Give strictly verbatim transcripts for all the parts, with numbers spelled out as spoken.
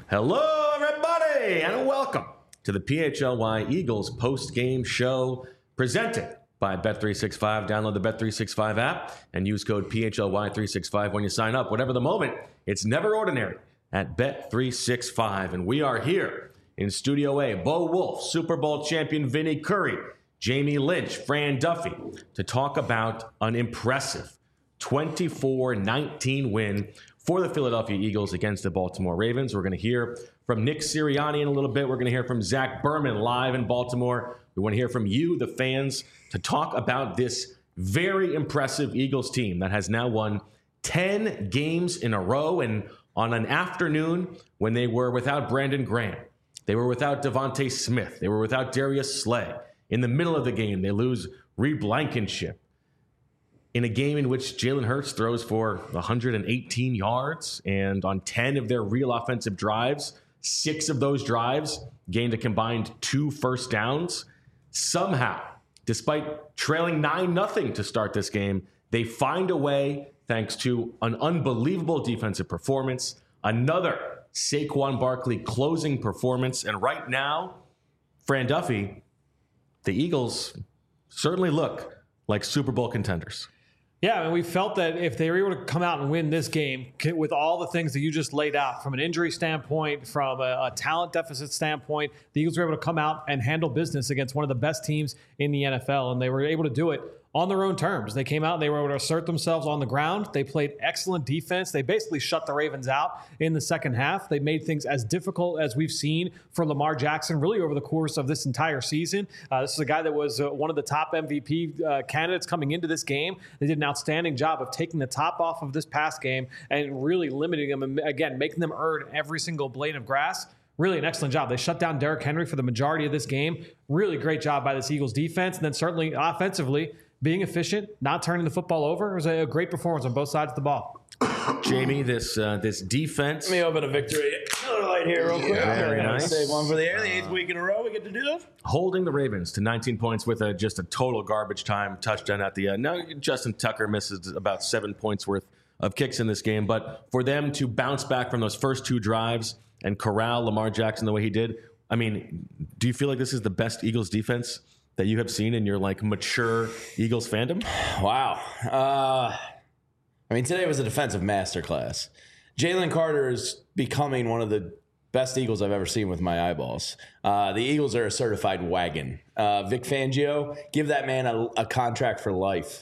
Hello, everybody, and welcome to the P H L Y Eagles post-game show presented by Bet three sixty-five. Download the Bet three sixty-five app and use code P H L Y three sixty-five when you sign up. Whatever the moment, it's never ordinary at Bet three sixty-five. And we are here in Studio A. Bo Wolf, Super Bowl champion Vinny Curry, Jamie Lynch, Fran Duffy, to talk about an impressive twenty-four nineteen win for the Philadelphia Eagles against the Baltimore Ravens. We're going to hear from Nick Sirianni in a little bit. We're going to hear from Zach Berman live in Baltimore. We want to hear from you, the fans, to talk about this very impressive Eagles team that has now won ten games in a row. And on an afternoon when they were without Brandon Graham, they were without Devontae Smith, they were without Darius Slay. In the middle of the game, they lose Reed Blankenship. In a game in which Jalen Hurts throws for one hundred eighteen yards, and on ten of their real offensive drives, six of those drives gained a combined two first downs. Somehow, despite trailing nine nothing to start this game, they find a way, thanks to an unbelievable defensive performance, another Saquon Barkley closing performance, and right now, Fran Duffy, the Eagles certainly look like Super Bowl contenders. Yeah, I mean, we felt that if they were able to come out and win this game with all the things that you just laid out, from an injury standpoint, from a, a talent deficit standpoint, the Eagles were able to come out and handle business against one of the best teams in the N F L, and they were able to do it on their own terms. They came out and they were able to assert themselves on the ground. They played excellent defense. They basically shut the Ravens out in the second half. They made things as difficult as we've seen for Lamar Jackson really over the course of this entire season. Uh, this is a guy that was uh, one of the top M V P uh, candidates coming into this game. They did an outstanding job of taking the top off of this past game and really limiting them, and again, making them earn every single blade of grass. Really an excellent job. They shut down Derrick Henry for the majority of this game. Really great job by this Eagles defense. And then certainly offensively, being efficient, not turning the football over. It was a great performance on both sides of the ball. Jamie, this uh, this defense. Let me open a victory. Another light here real quick. Yeah, very nice. Save one for the air. The eighth week in a row we get to do this. Holding the Ravens to nineteen points with a, just a total garbage time touchdown at the end. Now, Justin Tucker misses about seven points worth of kicks in this game. But for them to bounce back from those first two drives and corral Lamar Jackson the way he did, I mean, do you feel like this is the best Eagles defense that you have seen in your like mature Eagles fandom? Wow. Uh, I mean, today was a defensive masterclass. Jalen Carter is becoming one of the best Eagles I've ever seen with my eyeballs. Uh, the Eagles are a certified wagon. Uh, Vic Fangio, give that man a, a contract for life.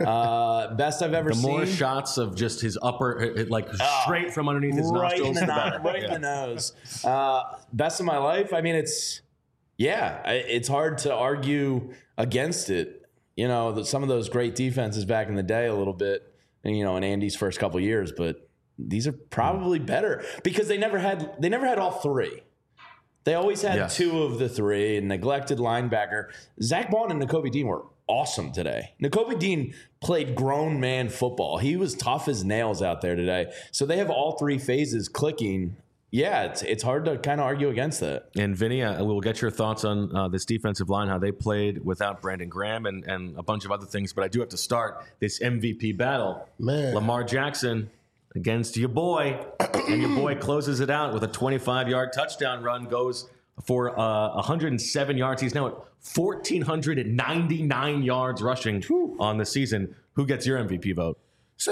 Uh, best I've ever the seen. The more shots of just his upper, like oh, straight from underneath his right nostrils. In the, the no- right yeah. in the nose. Uh, best of my life. I mean, it's, yeah, it's hard to argue against it. You know, the, some of those great defenses back in the day a little bit, and, you know, in Andy's first couple of years, but these are probably better because they never had they never had all three. They always had yes. two of the three, and neglected linebacker. Zach Bond and Nakobe Dean were awesome today. Nakobe Dean played grown man football. He was tough as nails out there today. So they have all three phases clicking. Yeah, it's it's hard to kind of argue against that. And Vinny, uh, we'll get your thoughts on uh, this defensive line, how they played without Brandon Graham and, and a bunch of other things. But I do have to start this M V P battle. Man. Lamar Jackson against your boy. And your boy closes it out with a twenty-five-yard touchdown run, goes for uh, one hundred seven yards. He's now at one thousand four hundred ninety-nine yards rushing Whew. on the season. Who gets your M V P vote?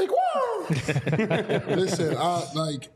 Saquon! Listen, I like...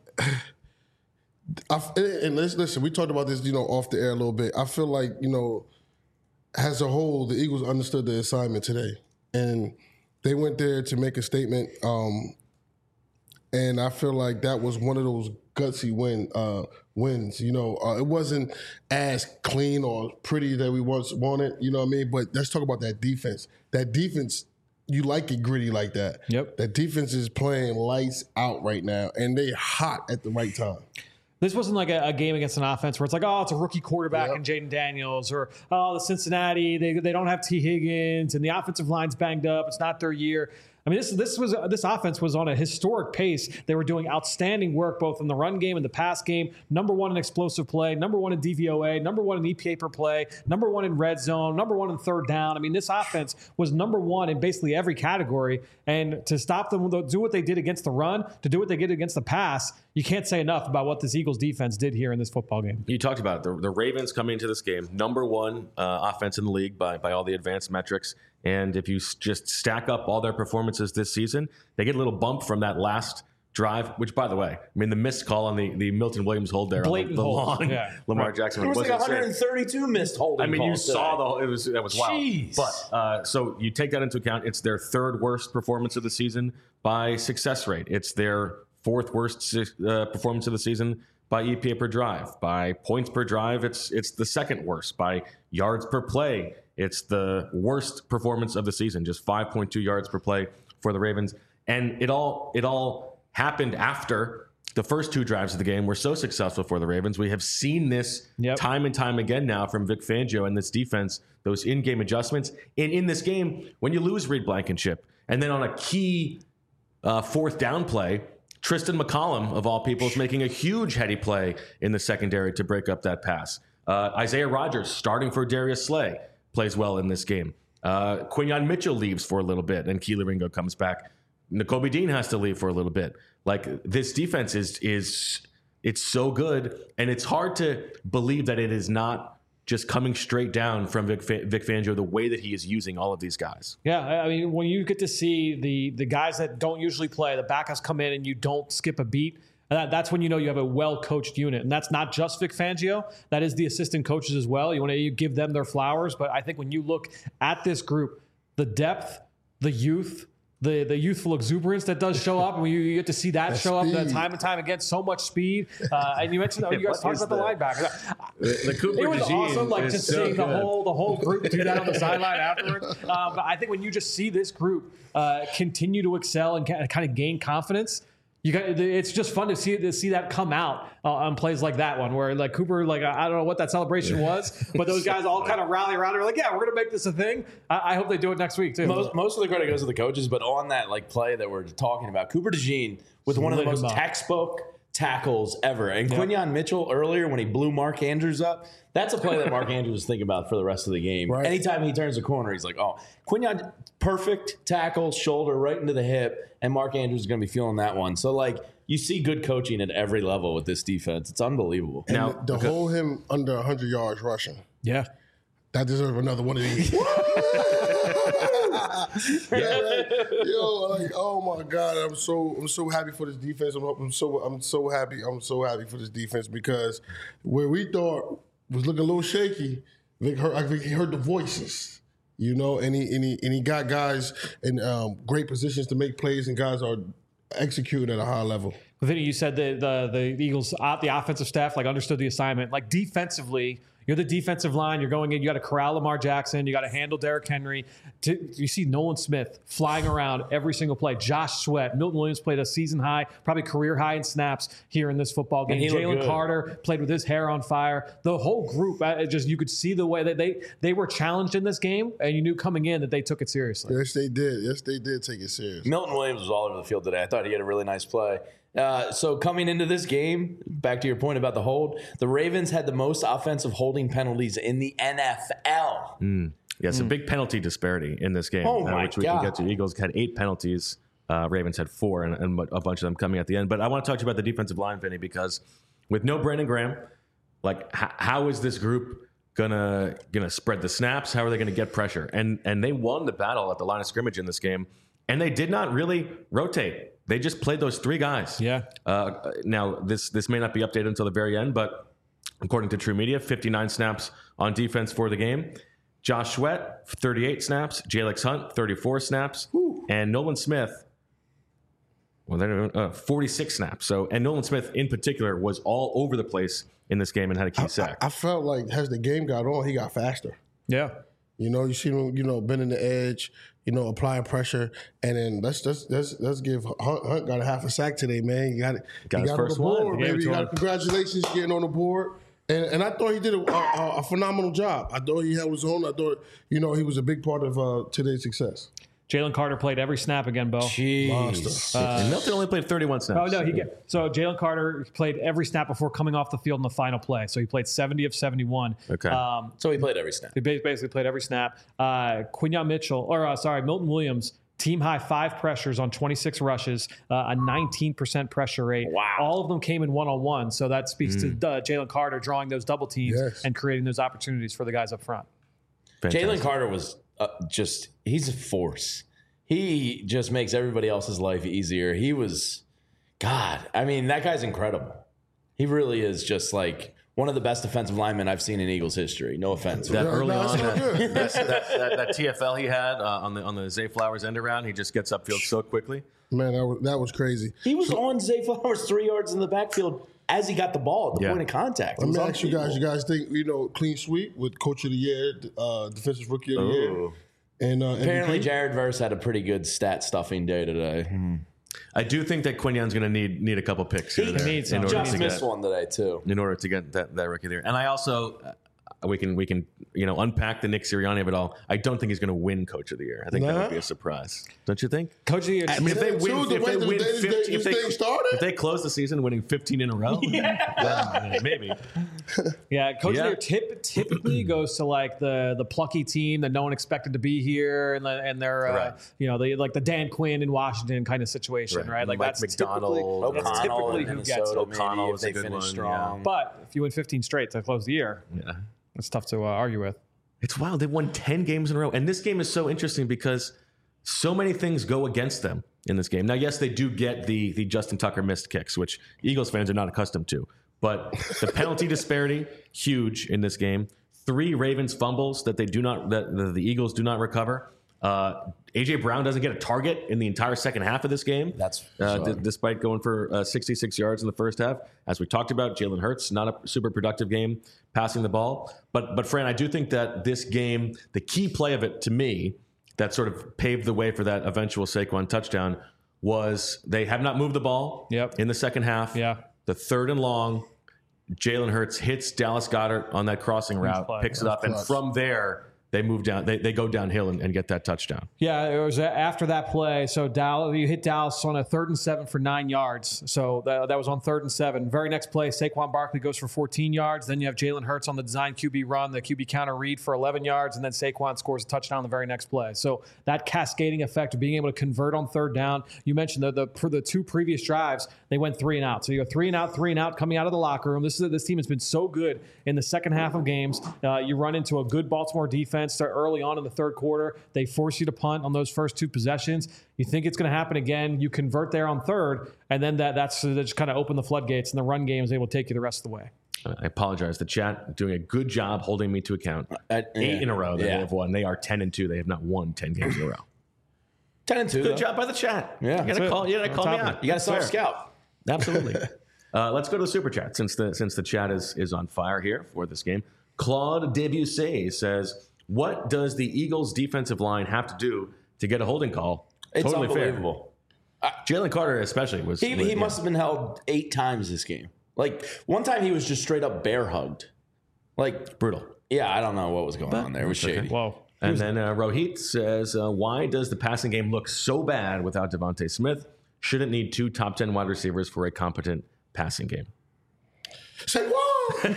I, and listen, we talked about this, you know, off the air a little bit. I feel like, you know, as a whole, the Eagles understood the assignment today. And they went there to make a statement. Um, and I feel like that was one of those gutsy win uh, wins. You know, uh, it wasn't as clean or pretty that we once wanted, you know what I mean? But let's talk about that defense. That defense, you like it gritty like that. Yep. That defense is playing lights out right now, and they hot at the right time. This wasn't like a, a game against an offense where it's like, oh, it's a rookie quarterback yep. and Jaden Daniels, or, oh, the Cincinnati, they, they don't have T. Higgins, and the offensive line's banged up. It's not their year. I mean, this this was this offense was on a historic pace. They were doing outstanding work both in the run game and the pass game. Number one in explosive play, number one in D V O A, number one in E P A per play, number one in red zone, number one in third down. I mean, this offense was number one in basically every category. And to stop them, do what they did against the run, to do what they did against the pass, you can't say enough about what this Eagles defense did here in this football game. You talked about it. The, the Ravens coming into this game, number one uh, offense in the league by by all the advanced metrics. And if you s- just stack up all their performances this season, they get a little bump from that last drive, which, by the way, I mean, the missed call on the, the Milton Williams hold there Blatant on the, the hold. long Yeah. Lamar Right. Jackson. There was was like insane. one hundred thirty-two missed holding I mean, you calls saw today. the whole, it was that was wild. Jeez. But uh, so you take that into account. It's their third worst performance of the season by success rate. It's their fourth worst uh, performance of the season by E P A per drive. By points per drive, it's it's the second worst. By yards per play, it's the worst performance of the season. Just five point two yards per play for the Ravens, and it all it all happened after the first two drives of the game were so successful for the Ravens. We have seen this Yep. time and time again now from Vic Fangio and this defense, those in-game adjustments. And in this game, when you lose Reed Blankenship, and then on a key uh, fourth down play, Tristan McCollum, of all people, is making a huge heady play in the secondary to break up that pass. Uh, Isaiah Rodgers, starting for Darius Slay, plays well in this game. Uh, Quinyon Mitchell leaves for a little bit, and Keely Ringo comes back. N'Kobe Dean has to leave for a little bit. Like, this defense is is it's so good, and it's hard to believe that it is not just coming straight down from Vic, Fa- Vic Fangio the way that he is using all of these guys. Yeah, I mean, when you get to see the the guys that don't usually play, the backups come in and you don't skip a beat, that, that's when you know you have a well-coached unit. And that's not just Vic Fangio. That is the assistant coaches as well. You want to you give them their flowers. But I think when you look at this group, the depth, the youth, the the youthful exuberance that does show up, and you, you get to see that, That show speed. up time and time again, so much speed. Uh, and you mentioned, oh, you guys What talked is about the that? linebacker. The, the Cooper It was DeJean awesome, like is just so seeing the good. whole the whole group do that on the sideline afterwards. Um, but I think when you just see this group uh, continue to excel and kind of gain confidence, you got it's just fun to see to see that come out uh, on plays like that one, where like Cooper, like I don't know what that celebration was, but those guys all kind of rally around and are like, yeah, we're gonna make this a thing. I, I hope they do it next week too. Most, most of the credit goes to the coaches, but on that like play that we're talking about, Cooper DeJean with one of the Lit most him up. textbook tackles ever. And Quinyon Mitchell earlier when he blew Mark Andrews up, that's a play that Mark Andrews was thinking about for the rest of the game. Right. Anytime he turns the corner, he's like, oh, Quinyon, perfect tackle, shoulder right into the hip, and Mark Andrews is going to be feeling that one. So, like, you see good coaching at every level with this defense. It's unbelievable. And Now- to hold him under one hundred yards rushing, Yeah. that deserves another one of these. Yeah, like, yo, like, oh my God, I'm so I'm so happy for this defense. I'm, I'm so I'm so happy. I'm so happy for this defense because where we thought was looking a little shaky, Vic heard, I think he heard the voices, you know, and he and he, and he got guys in um, great positions to make plays, and guys are executing at a high level. Vinny, you said the the the Eagles, uh, the offensive staff, like understood the assignment. Like defensively, you're the defensive line. You're going in. You got to corral Lamar Jackson. You got to handle Derrick Henry. To, you see Nolan Smith flying around every single play. Josh Sweat, Milton Williams played a season high, probably career high in snaps here in this football game. And he looked Jalen good. Carter played with his hair on fire. The whole group, uh, it just you could see the way that they they were challenged in this game, and you knew coming in that they took it seriously. Yes, they did. Yes, they did take it serious. Milton Williams was all over the field today. I thought he had a really nice play. Uh, so coming into this game, back to your point about the hold, the Ravens had the most offensive holding penalties in the N F L. Yeah, it's a big penalty disparity in this game, Oh uh, my which we God. can get to. Eagles had eight penalties. Uh, Ravens had four, and, and a bunch of them coming at the end. But I want to talk to you about the defensive line, Vinny, because with no Brandon Graham, like h- how is this group gonna gonna spread the snaps? How are they gonna get pressure? And and they won the battle at the line of scrimmage in this game, and they did not really rotate. They just played those three guys. Yeah. Uh, now this this may not be updated until the very end, but according to True Media, fifty-nine snaps on defense for the game. Josh Sweat, thirty-eight snaps. Jalex Hunt, thirty-four snaps. And Nolan Smith, well, they're, uh, forty-six snaps. So, and Nolan Smith in particular was all over the place in this game and had a key sack. I felt like as the game got on, he got faster. Yeah. You know, you see him, you know, bending the edge, you know, applying pressure, and then let's let's let's, let's give Hunt, Hunt got a half a sack today, man. You got it. Got he his got first on the one. board, He gave it baby. to You got him. congratulations getting on the board. And and I thought he did a, a, a phenomenal job. I thought he had his own. I thought, you know, he was a big part of uh, today's success. Jalen Carter played every snap again, Bo. Jeez. and Milton only played thirty-one snaps. Oh no, he get, so Jalen Carter played every snap before coming off the field in the final play. So he played seventy of seventy-one. Okay. Um, So he played every snap. he ba- basically played every snap. Uh, Quinyon Mitchell, or uh, sorry, Milton Williams, team high five pressures on twenty-six rushes, uh, a nineteen percent pressure rate. Wow. All of them came in one-on-one. So that speaks Mm. to uh, Jalen Carter drawing those double teams Yes. and creating those opportunities for the guys up front. Fantastic. Jalen Carter was uh, just, he's a force. He just makes everybody else's life easier. He was, God, I mean, that guy's incredible. He really is just like one of the best defensive linemen I've seen in Eagles history. No offense. That Yeah, early no, on, it's all that, good. that, that, that, that T F L he had uh, on the on the Zay Flowers end around, he just gets upfield so quickly. Man, that was, that was crazy. He was on Zay Flowers three yards in the backfield as he got the ball at the Yeah. point of contact. It Let was me ask you guys, you unbelievable. guys think, you know, clean sweep with Coach of the Year, uh, Defensive Rookie of the Year, Ooh. and uh, Apparently, M V P? Jared Verse had a pretty good stat stuffing day today. I do think that Quinyon's going to need need a couple picks here He and there needs in some. order Just to missed get one today, too. in order to get that, that rookie there. And I also uh, we can we can you know unpack the Nick Sirianni of it all. I don't think he's going to win Coach of the Year. I think that Nah. would be a surprise. Don't you think? Coach of the year. I mean, if they Too, win, the if way they the win day this fifteen, thing- if they, this thing started? if they close the season winning fifteen in a row, yeah, maybe. Yeah, coach Yeah. of the year tip, typically goes to like the the plucky team that no one expected to be here, and the- and they're uh, Right. you know they like the Dan Quinn in Washington kind of situation, right? Right. Like Mike that's McDonald, typically, that's O'Connell typically in who gets Minnesota, it. maybe, O'Connell if was a they good finish one, strong. But if you win fifteen straight to close the year, Yeah. it's tough to uh, argue with. It's wild. They've won ten games in a row. And this game is so interesting because so many things go against them in this game. Now, yes, they do get the the Justin Tucker missed kicks, which Eagles fans are not accustomed to. But the penalty disparity, huge in this game. Three Ravens fumbles that they do not that the, the Eagles do not recover. Uh, A J Brown doesn't get a target in the entire second half of this game. That's uh, bizarre. d- despite going for uh, sixty-six yards in the first half. As we talked about, Jalen Hurts, not a super productive game passing the ball. But, but Fran, I do think that this game, the key play of it to me, that sort of paved the way for that eventual Saquon touchdown was they have not moved the ball Yep. in the second half. Yeah. The third and long, Jalen Hurts hits Dallas Goedert on that crossing route, play. picks it up, and clutch. from there, they move down. They, they go downhill and, and get that touchdown. Yeah, it was after that play. So Dallas, you hit Dallas on a third and seven for nine yards. So that, that was on third and seven. Very next play, Saquon Barkley goes for fourteen yards. Then you have Jalen Hurts on the design Q B run, the Q B counter read for eleven yards, and then Saquon scores a touchdown on the very next play. So that cascading effect of being able to convert on third down. You mentioned the the, for the two previous drives, they went three and out. So you go three and out, three and out coming out of the locker room. This is this team has been so good in the second half of games. Uh, you run into a good Baltimore defense start early on in the third quarter. They force you to punt on those first two possessions. You think it's going to happen again. You convert there on third, and then that that's that just kind of open the floodgates, and the run game is able to take you the rest of the way. I apologize. The chat doing a good job holding me to account. Uh, yeah. Eight in a row that Yeah. they have won. They are ten and two. They have not won ten games in a row. ten and two. Good though. job by the chat. Yeah. you gotta That's call. it. You gotta On call me top of out. it. You got to That's self fair. scout. Absolutely. uh, let's go to the super chat since the since the chat is is on fire here for this game. Claude Debussy says, "What does the Eagles' defensive line have to do to get a holding call?" It's totally unbelievable. fair. Jalen Carter especially was. He, was- he yeah. must have been held eight times this game. Like one time he was just straight up bear hugged. Like brutal. yeah, I don't know what was going on there. It was okay. shady. Whoa. And then uh, Rohit says, uh, "Why does the passing game look so bad without Devontae Smith? Shouldn't need two top ten wide receivers for a competent passing game." Say what?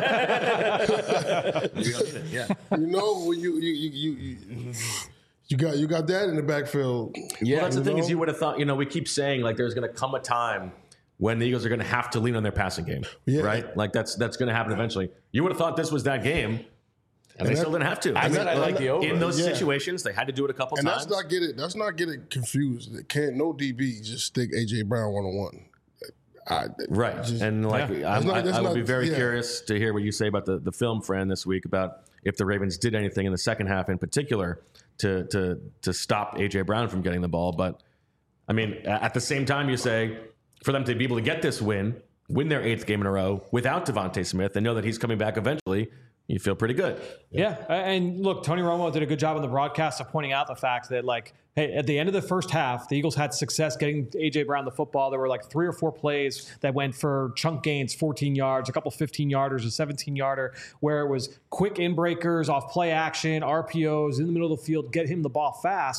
Yeah. You know, when you you you you. you You got you got that in the backfield. Yeah, Well, that's the you thing is know? you would have thought, you know, we keep saying like there's going to come a time when the Eagles are going to have to lean on their passing game, Yeah. right? Like that's that's going to happen eventually. You would have thought this was that game, and, they that- still didn't have to. I said I like the over. In those Yeah. situations, they had to do it a couple And times. that's not get it. That's not get it confused. It can't no D B just stick A J Brown one on one. I, Right. just- and like, Yeah. I'm- That's not- I, that's I would not- be very yeah. curious to hear what you say about the, the film, Fran, this week about if the Ravens did anything in the second half in particular to to to stop A J Brown from getting the ball. But I mean, a- at the same time, you say for them to be able to get this win, win their eighth game in a row without Devontae Smith, and know that he's coming back eventually, you feel pretty good. Yeah, and look, Tony Romo did a good job on the broadcast of pointing out the fact that, like, hey, at the end of the first half, the Eagles had success getting A J Brown the football. There were like three or four plays that went for chunk gains, fourteen yards, a couple fifteen-yarders, a seventeen-yarder, where it was quick in breakers, off play action, R P Os, in the middle of the field, get him the ball fast.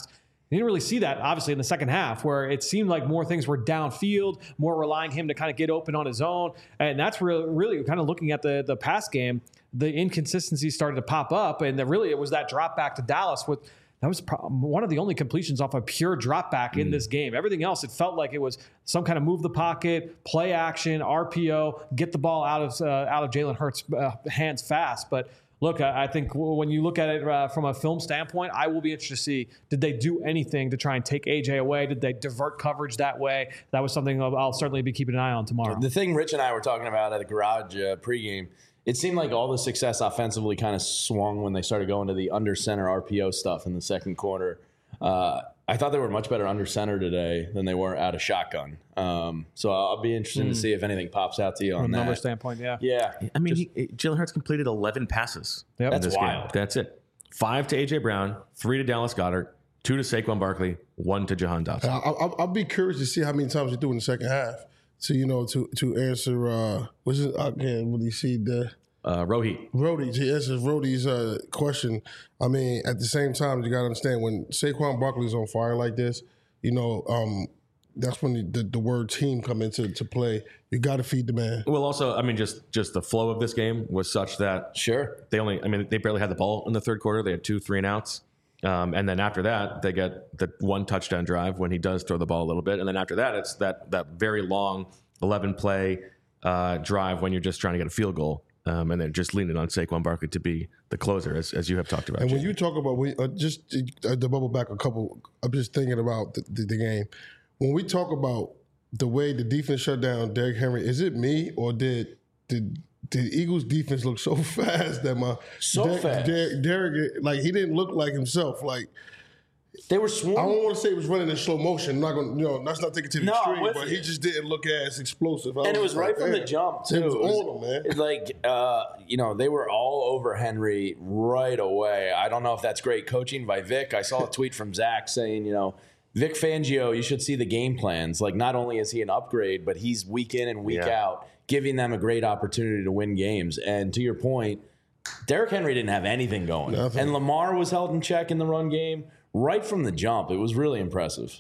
You didn't really see that, obviously, in the second half, where it seemed like more things were downfield, more relying him to kind of get open on his own. And that's really, really kind of looking at the, the pass game, the inconsistencies started to pop up. And the, really, it was that drop back to Dallas with that was pro- one of the only completions off a pure drop back in mm. this game. Everything else, it felt like it was some kind of move the pocket, play action, R P O, get the ball out of uh, out of Jalen Hurts' uh, hands fast. But look, I, I think when you look at it uh, from a film standpoint, I will be interested to see, did they do anything to try and take A J away? Did they divert coverage that way? That was something I'll, I'll certainly be keeping an eye on tomorrow. The thing Rich and I were talking about at the garage uh, pregame, it seemed like all the success offensively kind of swung when they started going to the under center R P O stuff in the second quarter. Uh, I thought they were much better under center today than they were out of shotgun. Um, so I'll be interested mm. to see if anything pops out to you on From a that. number standpoint, yeah. Yeah. I mean, he, Jalen Hurts completed eleven passes. Yep. in That's this wild. Game. That's it. Five to A J Brown, three to Dallas Goedert, two to Saquon Barkley, one to Jahan Dotson. I'll, I'll be curious to see how many times they do in the second half. So, you know, to to answer, uh, what's it, I can't really see the... Uh, Rohit. Rody, to answer Rody's uh, question, I mean, at the same time, you got to understand, when Saquon Barkley's on fire like this, you know, um, that's when the, the, the word team come into to play. You got to feed the man. Well, also, I mean, just just the flow of this game was such that Sure. they only, I mean, they barely had the ball in the third quarter. They had two three and outs. Um, and then after that, they get the one touchdown drive when he does throw the ball a little bit. And then after that, it's that that very long eleven play uh, drive when you're just trying to get a field goal. Um, and then just leaning on Saquon Barkley to be the closer, as, as you have talked about. And when Jimmy. you talk about, when, uh, just to, uh, to bubble back a couple, I'm just thinking about the, the, the game. When we talk about the way the defense shut down Derrick Henry, is it me or did did did Eagles defense look so fast that my So Derrick, fast. Derrick, Derrick, like he didn't look like himself. Like They were I swarming. don't want to say he was running in slow motion. I'm not going, you know, that's not taking it to the No, I'm extreme, with but you. he just didn't look as explosive. I And it was just right like, from the damn. jump, too. It was It was- on him, man. It's like, uh, you know, they were all over Henry right away. I don't know if that's great coaching by Vic. I saw a tweet from Zach saying, you know, Vic Fangio, you should see the game plans. Like, not only is he an upgrade, but he's week in and week Yeah. out, giving them a great opportunity to win games. And to your point, Derrick Henry didn't have anything going. Nothing. And Lamar was held in check in the run game right from the jump. It was really impressive.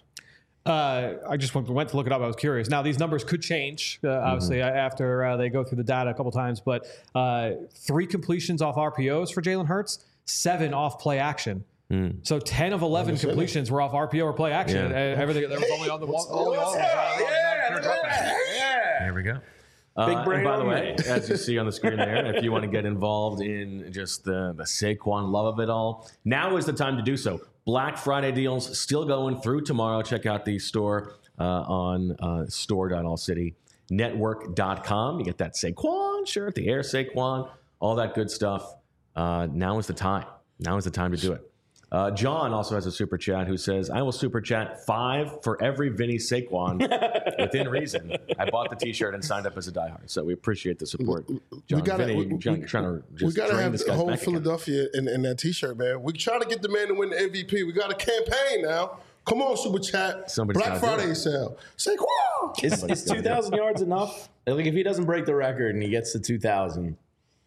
Uh, I just went, went to look it up. I was curious. Now, these numbers could change, uh, obviously, Mm-hmm. after uh, they go through the data a couple times. But uh, three completions off R P Os for Jalen Hurts, seven off play action. Mm. So ten of eleven completions were off R P O or play action. Yeah. Uh, everything there was only on the one. Only on the, uh, Yeah, look at that. There we go. Big Uh, brain and by the on way, me. as you see on the screen there, if you want to get involved in just the, the Saquon love of it all, now is the time to do so. Black Friday deals still going through tomorrow. Check out the store uh, on uh, store dot all city network dot com. You get that Saquon shirt, the Air Saquon, all that good stuff. Uh, now is the time. Now is the time to do it. Uh, John also has a super chat who says, I will super chat five for every Vinny Saquon within reason. I bought the t-shirt and signed up as a diehard. So we appreciate the support. John, we gotta, Vinny, we, John, we, trying to we just gotta drain have this the guy's whole bank account. Philadelphia in, in that T-shirt, man. We trying to get the man to win the M V P. We got a campaign now. Come on, Super Chat. Somebody's Black gotta do Friday it. sale. Saquon. Is, is two thousand yards enough? Like, if he doesn't break the record and he gets to two thousand.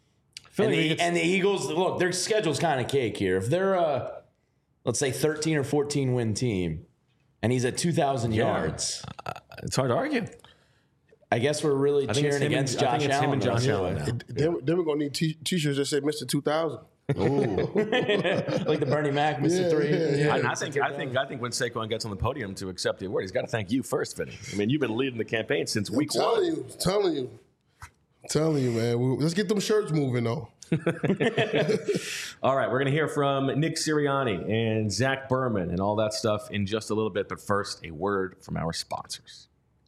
And the, and the Eagles, look, their schedule's kind of cake here. If they're a, let's say, thirteen or fourteen win team, and he's at two thousand Yeah. yards, It's hard to argue. I guess we're really I think it's cheering him and- against I Josh think it's him Allen. and Josh though. Allen now. Then, then we're gonna need t- T-shirts that say Mister two thousand. Like the Bernie Mac, Mister Yeah, Three. yeah, yeah. And I think I think I think when Saquon gets on the podium to accept the award, he's got to thank you first, Vinny. I mean, you've been leading the campaign since week I'm telling one. you, telling you, telling you, man. We- Let's get them shirts moving, though. All right, we're going to hear from Nick Sirianni and Zach Berman and all that stuff in just a little bit. But first, a word from our sponsors.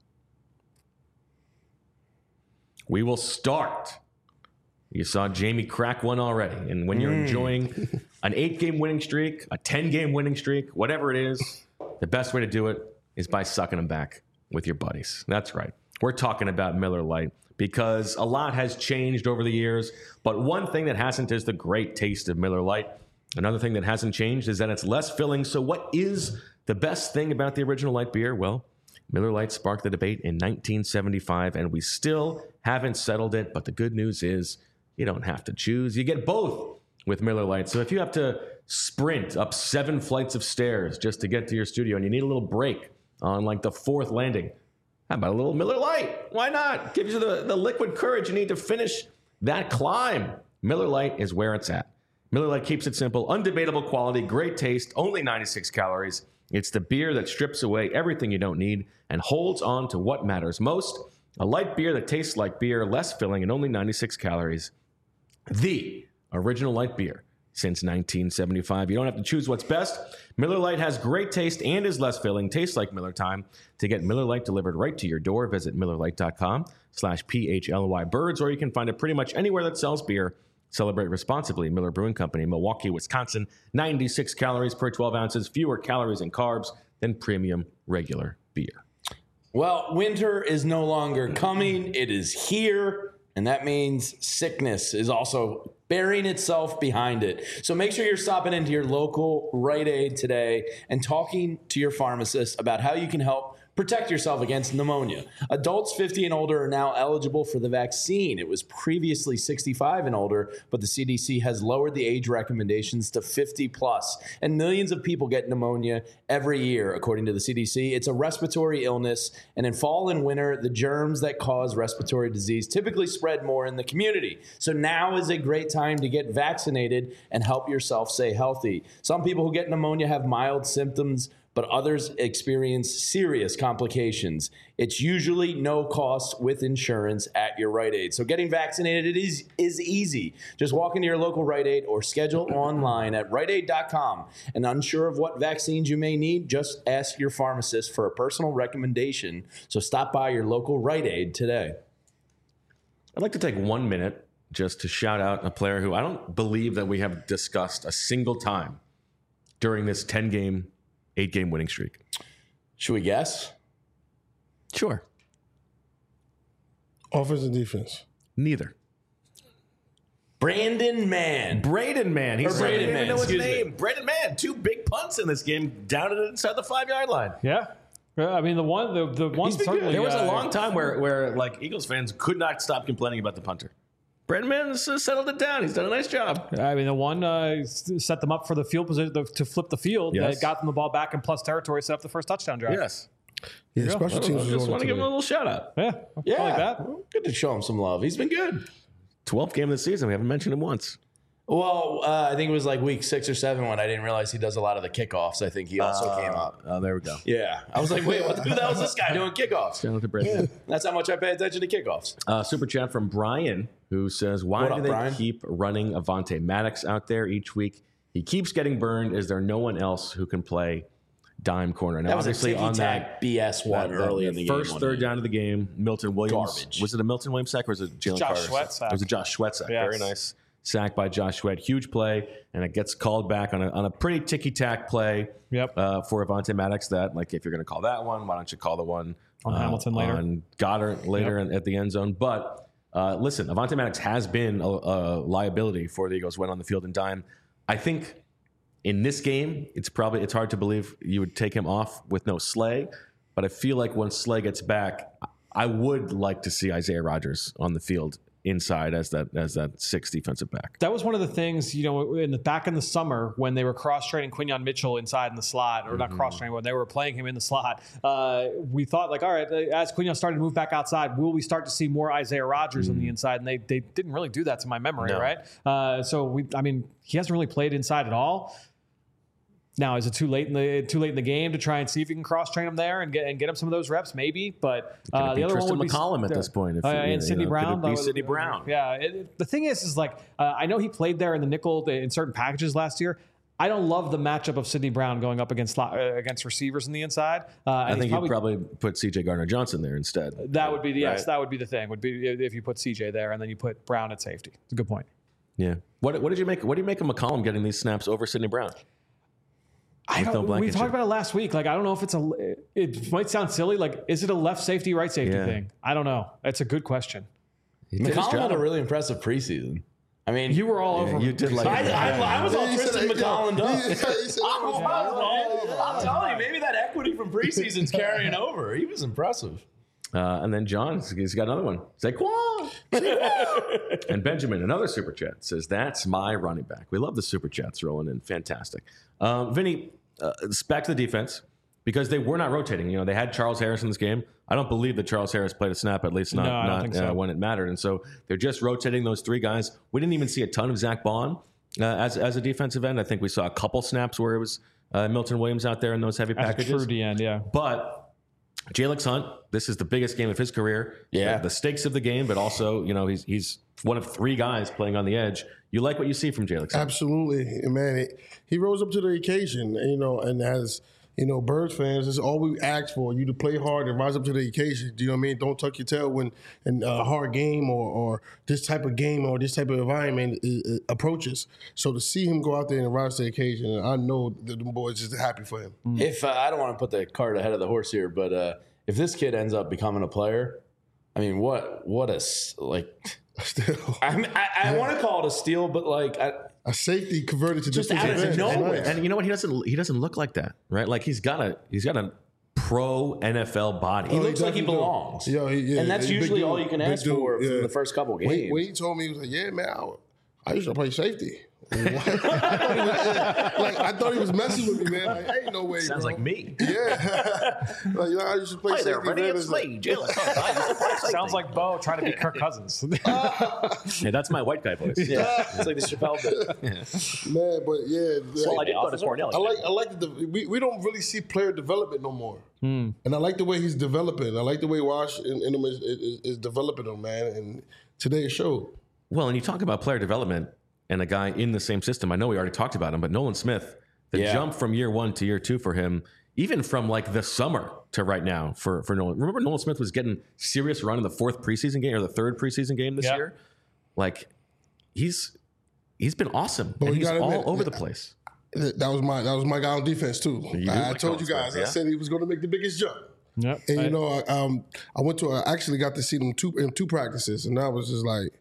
We will start. You saw Jamie crack one already. And when you're enjoying an eight-game winning streak, a ten-game winning streak, whatever it is, the best way to do it is by sucking them back with your buddies. That's right. We're talking about Miller Lite because a lot has changed over the years. But one thing that hasn't is the great taste of Miller Lite. Another thing that hasn't changed is that it's less filling. So what is the best thing about the original light beer? Well, Miller Lite sparked the debate in nineteen seventy-five, and we still haven't settled it. But the good news is you don't have to choose. You get both with Miller Lite. So if you have to sprint up seven flights of stairs just to get to your studio, and you need a little break on like the fourth landing. How about a little Miller Lite? Why not? Gives you the, the liquid courage you need to finish that climb. Miller Lite is where it's at. Miller Lite keeps it simple, undebatable quality, great taste, only ninety-six calories. It's the beer that strips away everything you don't need and holds on to what matters most. A light beer that tastes like beer, less filling, and only ninety-six calories. The original light beer since nineteen seventy-five. You don't have to choose what's best. Miller Lite has great taste and is less filling. Tastes like Miller time. To get Miller Lite delivered right to your door, visit millerlite.com slash P-H-L-Y birds, or you can find it pretty much anywhere that sells beer. Celebrate responsibly. Miller Brewing Company, Milwaukee, Wisconsin. ninety-six calories per twelve ounces, fewer calories and carbs than premium regular beer. Well, winter is no longer coming. It is here. And that means sickness is also burying itself behind it. So make sure you're stopping into your local Rite Aid today and talking to your pharmacist about how you can help protect yourself against pneumonia. Adults fifty and older are now eligible for the vaccine. It was previously sixty-five and older, but the C D C has lowered the age recommendations to fifty plus. And millions of people get pneumonia every year, according to the C D C. It's a respiratory illness, and in fall and winter, the germs that cause respiratory disease typically spread more in the community. So now is a great time to get vaccinated and help yourself stay healthy. Some people who get pneumonia have mild symptoms, but others experience serious complications. It's usually no cost with insurance at your Rite Aid. So getting vaccinated is, is easy. Just walk into your local Rite Aid or schedule online at rite aid dot com. And unsure of what vaccines you may need, just ask your pharmacist for a personal recommendation. So stop by your local Rite Aid today. I'd like to take one minute just to shout out a player who I don't believe that we have discussed a single time during this ten-game eight-game winning streak. Should we guess? Sure. Offense and defense. Neither. Brandon Mann. Braden Mann. He's Or Braden I didn't even Mann, know his excuse me. name. Braden Mann. Two big punts in this game, down it inside the five-yard line. Yeah. I mean, the one, the, the one He's been certainly. good. There was a uh, long time where, where like Eagles fans could not stop complaining about the punter. Braden Mann has uh, settled it down. He's done a nice job. I mean, the one uh, set them up for the field position the, to flip the field. Yes. That got them the ball back in plus territory, set up the first touchdown drive. Yes. Yeah, special I teams was just on want to it give him a today. little shout out. Yeah. Yeah. I like that. Good to show him some love. He's been good. twelfth game of the season. We haven't mentioned him once. Well, uh, I think it was like week six or seven when I didn't realize he does a lot of the kickoffs. I think he also came up. Oh, there we go. Yeah. I was like, wait, what, who the hell is this guy doing kickoffs? Shout out to Braden. That's how much I pay attention to kickoffs. Uh, super chat from Brian, who says, why What do up, they Brian? keep running Avonte Maddox out there each week? He keeps getting burned. Is there no one else who can play dime corner? Now, That was a obviously, on ticky-tack that B S one that- early that in the first game. third down of the game, Milton Williams. Garbage. Was it a Milton Williams sack or was it Jalen Josh Carter? Sweat sack. It was a Josh Sweat sack. Yes. Very nice sack by Josh Sweat. Huge play, and it gets called back on a, on a pretty ticky-tack play Yep. uh, for Avonte Maddox. That, like, if you're going to call that one, why don't you call the one On uh, Hamilton later. on Goddard later Yep. in- at the end zone? But uh, listen, Avonte Maddox has been a, a liability for the Eagles when on the field in dime. I think in this game, it's probably it's hard to believe you would take him off with no Slay, but I feel like when Slay gets back, I would like to see Isaiah Rodgers on the field inside as that as that sixth defensive back. That was one of the things, you know, in the back in the summer when they were cross-training Quinyon Mitchell inside in the slot, or not cross-training, when they were playing him in the slot. Uh, we thought, like, all right, as Quinyon started to move back outside, will we start to see more Isaiah Rodgers on the inside? And they they didn't really do that to my memory, No. right? Uh, so we, I mean, he hasn't really played inside at all. Now, is it too late in the too late in the game to try and see if you can cross train him there and get and get him some of those reps? Maybe, but Could uh, it be the other Tristan one would McCollum be at this point? If, uh, you know, and Sidney could Brown. it be That was- Sidney Brown? Yeah. It, the thing is, is like uh, I know he played there in the nickel in certain packages last year. I don't love the matchup of Sidney Brown going up against slot, uh, against receivers in the inside. Uh, I and think he's you'd probably put C J Gardner Johnson there instead. that would be the yes, Right. that would be the thing. Would be if you put C J there and then you put Brown at safety. It's a good point. Yeah. What what did you make? What do you make of McCollum getting these snaps over Sidney Brown? I With no don't, we Blankenship. talked about it last week. Like, I don't know if it's a, it might sound silly. Like, is it a left safety, right safety Yeah. thing? I don't know. It's a good question. He did his McCollum had job. a really impressive preseason. I mean, You were all over him. You did like I, I, I was all He said Tristan that- McCollum yeah, up. he said- he said I that was- was, man. I'm telling you, maybe that equity from preseason's carrying over. He was impressive. Uh, and then John, he's got another one. Saquon. And Benjamin, another super chat, says, that's my running back. We love the super chats rolling in. Fantastic. Um, Vinny, uh, back to the defense, because they were not rotating. You know, they had Charles Harris in this game. I don't believe that Charles Harris played a snap, at least not, No, I don't not think so. uh, when it mattered. And so they're just rotating those three guys. We didn't even see a ton of Zach Bond uh, as, as a defensive end. I think we saw a couple snaps where it was uh, Milton Williams out there in those heavy As a packages. true D end, yeah. But Jalex Hunt, this is the biggest game of his career. Yeah. The, the stakes of the game, but also, you know, he's he's one of three guys playing on the edge. You like what you see from Jalex Hunt? Absolutely, and man. He, he rose up to the occasion, you know, and as you know, Birds fans, it's all we ask for, you to play hard and rise up to the occasion. Do you know what I mean? Don't tuck your tail when in a hard game or, or this type of game or this type of environment is, is, approaches. So to see him go out there and rise to the occasion, I know that the boys is happy for him. If uh, I don't want to put the cart ahead of the horse here, but uh, if this kid ends up becoming a player, I mean, what what a s- like. Still, I mean, I, I want to call it a steal, but like, I, a safety converted to Just defensive out of end. nowhere. Nice. And you know what? He doesn't. He doesn't look like that, right? Like he's got a. He's got a pro N F L body. he Oh, looks like he definitely do. belongs. Yo, he- yeah, and that's he's a big usually dude. all you can Big ask dude, for yeah. from the first couple games. When, when he told me, he was like, "Yeah, man, I, I used to play safety." What? I thought he was, like I thought he was messing with me, man. Like, ain't no way. Sounds bro. like me. Yeah, like you know, I used to play safety. man. It's like- Jalen Hunt. Sounds like Bo trying to be Kirk Cousins. Hey, that's my white guy voice. Yeah, it's like the Chappelle bit. man, but yeah, Well, I like, did go to Cornell. I like I like the we, we don't really see player development no more, and I like the way he's developing. I like the way Wash and, and him is, is, is developing him, man. And today it showed. Well, and you talk about player development and a guy in the same system. I know we already talked about him, but Nolan Smith, the Yeah. jump from year one to year two for him, even from like the summer to right now for, for Nolan. Remember, Nolan Smith was getting serious run in the fourth preseason game or the third preseason game this Yeah. year. Like he's he's been awesome. But and you he's gotta all admit, over the place. That was my that was my guy on defense too. You do I, I like told you Nolan guys. Smith, I yeah? said he was going to make the biggest jump. Yep. And I- you know, I, um, I went to I actually got to see them two in two practices, and I was just like,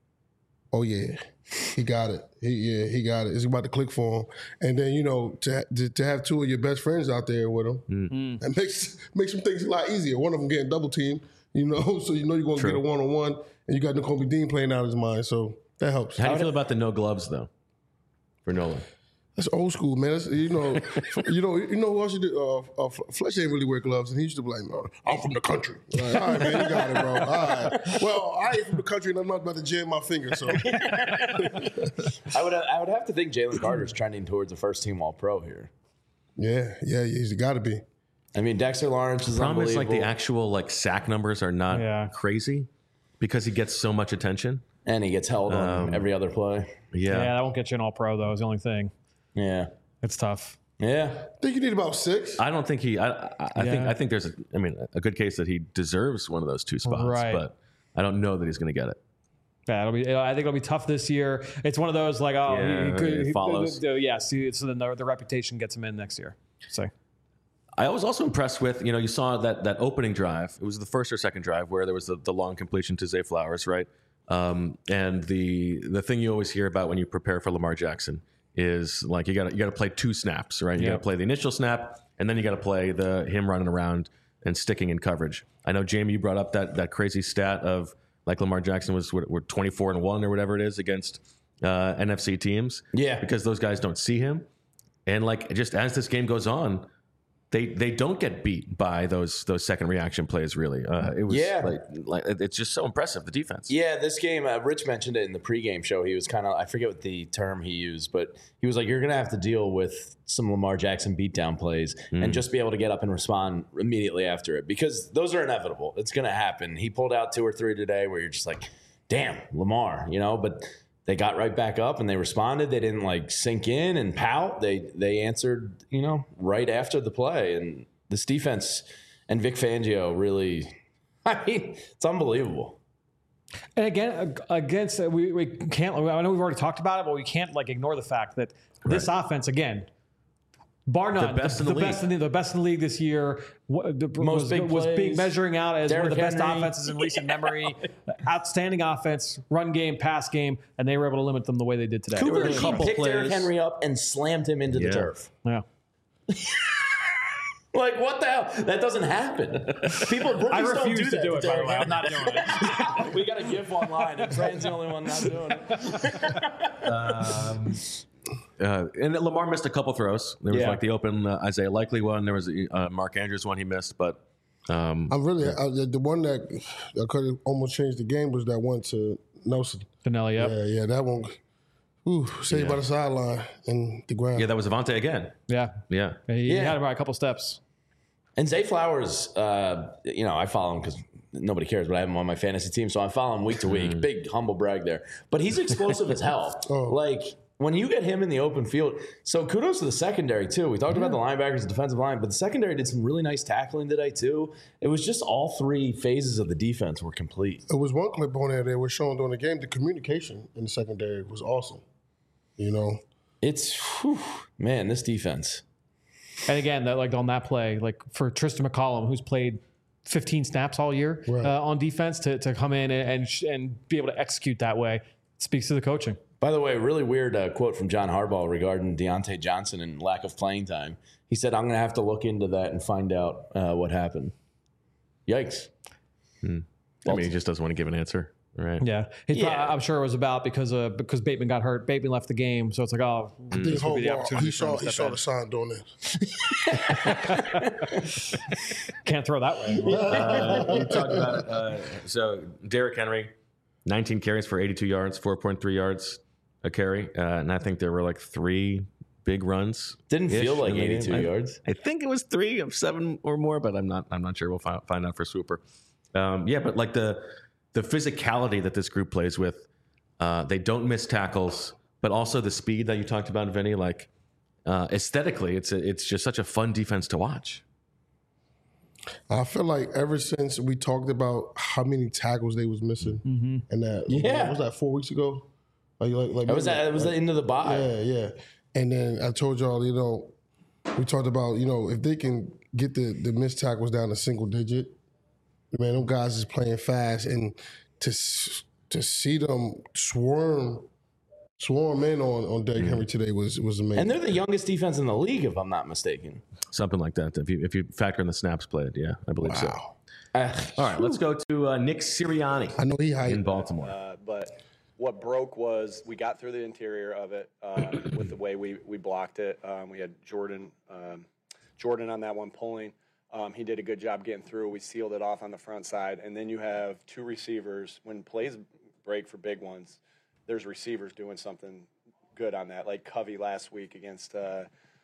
"Oh yeah, he got it. He yeah, he got it. It's about to click for him." And then you know, to to, to have two of your best friends out there with him, Mm. that makes makes some things a lot easier. One of them getting double teamed, you know, so you know you're going to True. get a one on one, and you got Nakobe Dean playing out his mind, so that helps. How do you feel about the no gloves though for Nolan? That's old school, man. That's, you know, you know, you know who else you did? Uh, uh, Fletcher ain't really wear gloves, and he used to be like, "No, I'm from the country." Like, all right, man, you got it, bro. All right. Well, I ain't from the country, and I'm not about to jam my finger. So, I would I would have to think Jalen Carter's trending towards a first team All Pro here. yeah, yeah, he's got to be. I mean, Dexter Lawrence is Problem is like unbelievable, the actual like sack numbers are not Yeah. crazy because he gets so much attention. and he gets held on Um, every other play. yeah, Yeah. that won't get you an all pro, though, is the only thing. Yeah, It's tough. yeah. I think you need about six. I don't think he. I, I, I think. Yeah. I think there's. A, I mean, a good case that he deserves one of those two spots, Right. but I don't know that he's going to get it. Yeah, it'll be. I think it'll be tough this year. It's one of those like, oh, Yeah, he, he could. it he- follows. the- the- yeah, see, so then the, the reputation gets him in next year. So I was also impressed with. You know, you saw that that opening drive. It was the first or second drive where there was the, the long completion to Zay Flowers, right? Um, and the the thing you always hear about when you prepare for Lamar Jackson is like you got you got to play two snaps, right? You got Yep. to play the initial snap, and then you got to play the him running around and sticking in coverage. I know Jamie, you brought up that that crazy stat of like Lamar Jackson was what, what twenty-four and one or whatever it is against uh, N F C teams. Yeah. because those guys don't see him, and like just as this game goes on. They they don't get beat by those those second reaction plays. Really, uh, it was Yeah. like, like it's just so impressive the defense. Yeah, this game, uh, Rich mentioned it in the pregame show. He was kind of, I forget what the term he used, but he was like, you're going to have to deal with some Lamar Jackson beatdown plays and just be able to get up and respond immediately after it because those are inevitable. It's going to happen. He pulled out two or three today where you're just like, damn, Lamar, you know, but they got right back up and they responded. They didn't like sink in and pout. They they answered, you know, right after the play. And this defense and Vic Fangio really, I mean, it's unbelievable. and again, ag- against uh, we we can't. I know we've already talked about it, but we can't like ignore the fact that this offense again. Bar none, The best in the league. best in the, the best in the league this year. wha- the- Most was, big was being plays. measuring out as one of Derrick the best Henry. offenses in recent memory. Outstanding offense, run game, pass game, and they were able to limit them the way they did today. Cooper were a he couple picked Derrick plays. Henry up and slammed him into Yeah. the turf. Yeah. Like, what the hell? That doesn't happen. People, rookies I don't refuse do to that do it, by the way. Derrick I'm not doing it. We got a GIF online, and Trent's the only one not doing it. Um, uh, and Lamar missed a couple throws. There was Yeah. like the open uh, Isaiah Likely one. There was a uh, Mark Andrews one he missed, but um, I'm really I, the, the one that that could have almost changed the game was that one to Nelson. Finelli, yep. Yeah, yeah, that one. Ooh, saved Yeah. by the sideline and the ground. yeah, that was Avante again. Yeah. Yeah. He Yeah. had him by a couple steps. And Zay Flowers, uh, you know, I follow him because nobody cares, but I have him on my fantasy team, so I follow him week to week. Big humble brag there. But he's explosive as hell. Oh. Like, when you get him in the open field, so kudos to the secondary, too. We talked about the linebackers, the defensive line, but the secondary did some really nice tackling today, too. It was just all three phases of the defense were complete. It was one clip on there that was showing during the game. The communication in the secondary was awesome. You know, It's, whew, man, this defense. And again, that like on that play, like for Tristan McCollum, who's played fifteen snaps all year Right. uh, on defense, to, to come in and and, sh- and be able to execute that way speaks to the coaching. By the way, really weird uh, quote from John Harbaugh regarding Deontay Johnson and lack of playing time. He said, I'm going to have to look into that and find out uh, what happened. Yikes. I mean, he just doesn't want to give an answer, right? Yeah, He's Yeah. probably- I'm sure it was about because uh, because Bateman got hurt. Bateman left the game, so it's like, oh, I think this would be the Harbaugh, opportunity he for him saw to he step saw in. the sign doing this. Can't throw that way. Uh, you talked about uh, so Derrick Henry, nineteen carries for eighty-two yards, four point three yards a carry, uh, and I think there were like three big runs. Didn't feel like in the game. eighty-two I- yards. I think it was three of seven or more, but I'm not. I'm not sure. We'll find, find out for Swooper. Um, yeah, but like the the physicality that this group plays with, uh, they don't miss tackles, but also the speed that you talked about, Vinny. Like uh, aesthetically, it's a, it's just such a fun defense to watch. I feel like ever since we talked about how many tackles they was missing, and that Yeah. what was that four weeks ago? Like, like, like It was, maybe- it was the end of the bye. Yeah, yeah. And then I told y'all, you know, we talked about, you know, if they can get the, the missed tackles down to single digit, man, them guys is playing fast. And to s- to see them swarm swarm in on, on Derrick Henry today was was amazing. And they're the youngest defense in the league, if I'm not mistaken. Something like that. If you if you factor in the snaps played, yeah, I believe so. Wow. Uh, All right, let's go to uh, Nick Sirianni I know he in hyped. Baltimore. Uh, but what broke was we got through the interior of it uh, with the way we, we blocked it. Um, we had Jordan um, Jordan on that one pulling. Um, he did a good job getting through. We sealed it off on the front side. And then you have two receivers. When plays break for big ones, there's receivers doing something good on that, like Covey last week against uh,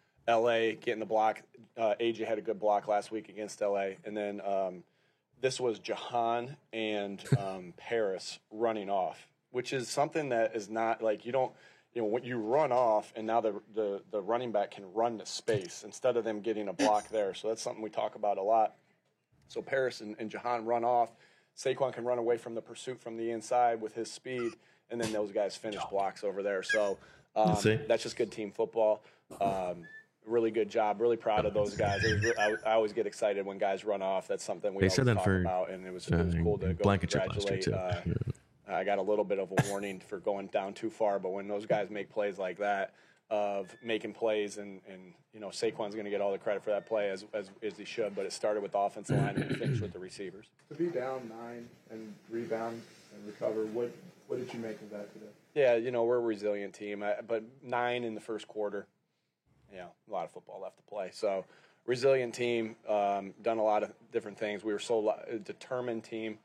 L A, getting the block. Uh, A J had a good block last week against L A. And then um, this was Jahan and um, Paris running off, which is something that is not like you don't, you know, when you run off and now the, the, the running back can run to space instead of them getting a block there. So that's something we talk about a lot. So Paris and, and Jahan run off. Saquon can run away from the pursuit from the inside with his speed, and then those guys finish blocks over there. So um, see. that's just good team football. Um, really good job. Really proud of those guys. It was re- I, I always get excited when guys run off. That's something we They always said that talk for, about, and it was, it was uh, cool to go Blankenship last year, congratulate. too. Uh, I got a little bit of a warning for going down too far, but when those guys make plays like that, of making plays, and, and you know, Saquon's going to get all the credit for that play as, as as he should, but it started with the offensive line and it finished with the receivers. To be down nine and rebound and recover, what what did you make of that today? Yeah, you know, we're a resilient team, I, but nine in the first quarter, yeah, a lot of football left to play. So, resilient team, um, done a lot of different things. We were so lo- a determined team.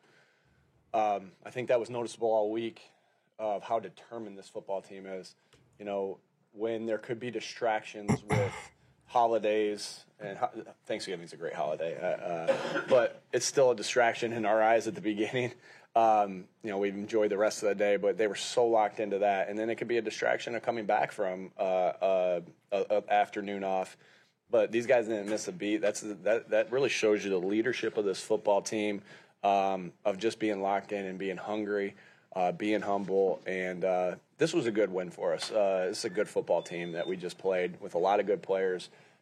Um, I think that was noticeable all week of how determined this football team is. You know, when there could be distractions with holidays, and ho- Thanksgiving's a great holiday, uh, uh, but it's still a distraction in our eyes at the beginning. Um, you know, we've enjoyed the rest of the day, but they were so locked into that. And then it could be a distraction of coming back from uh, uh, a, a afternoon off. But these guys didn't miss a beat. That's that. That really shows you the leadership of this football team, um, of just being locked in and being hungry, uh, being humble. And uh, this was a good win for us. Uh, this is a good football team that we just played with a lot of good players.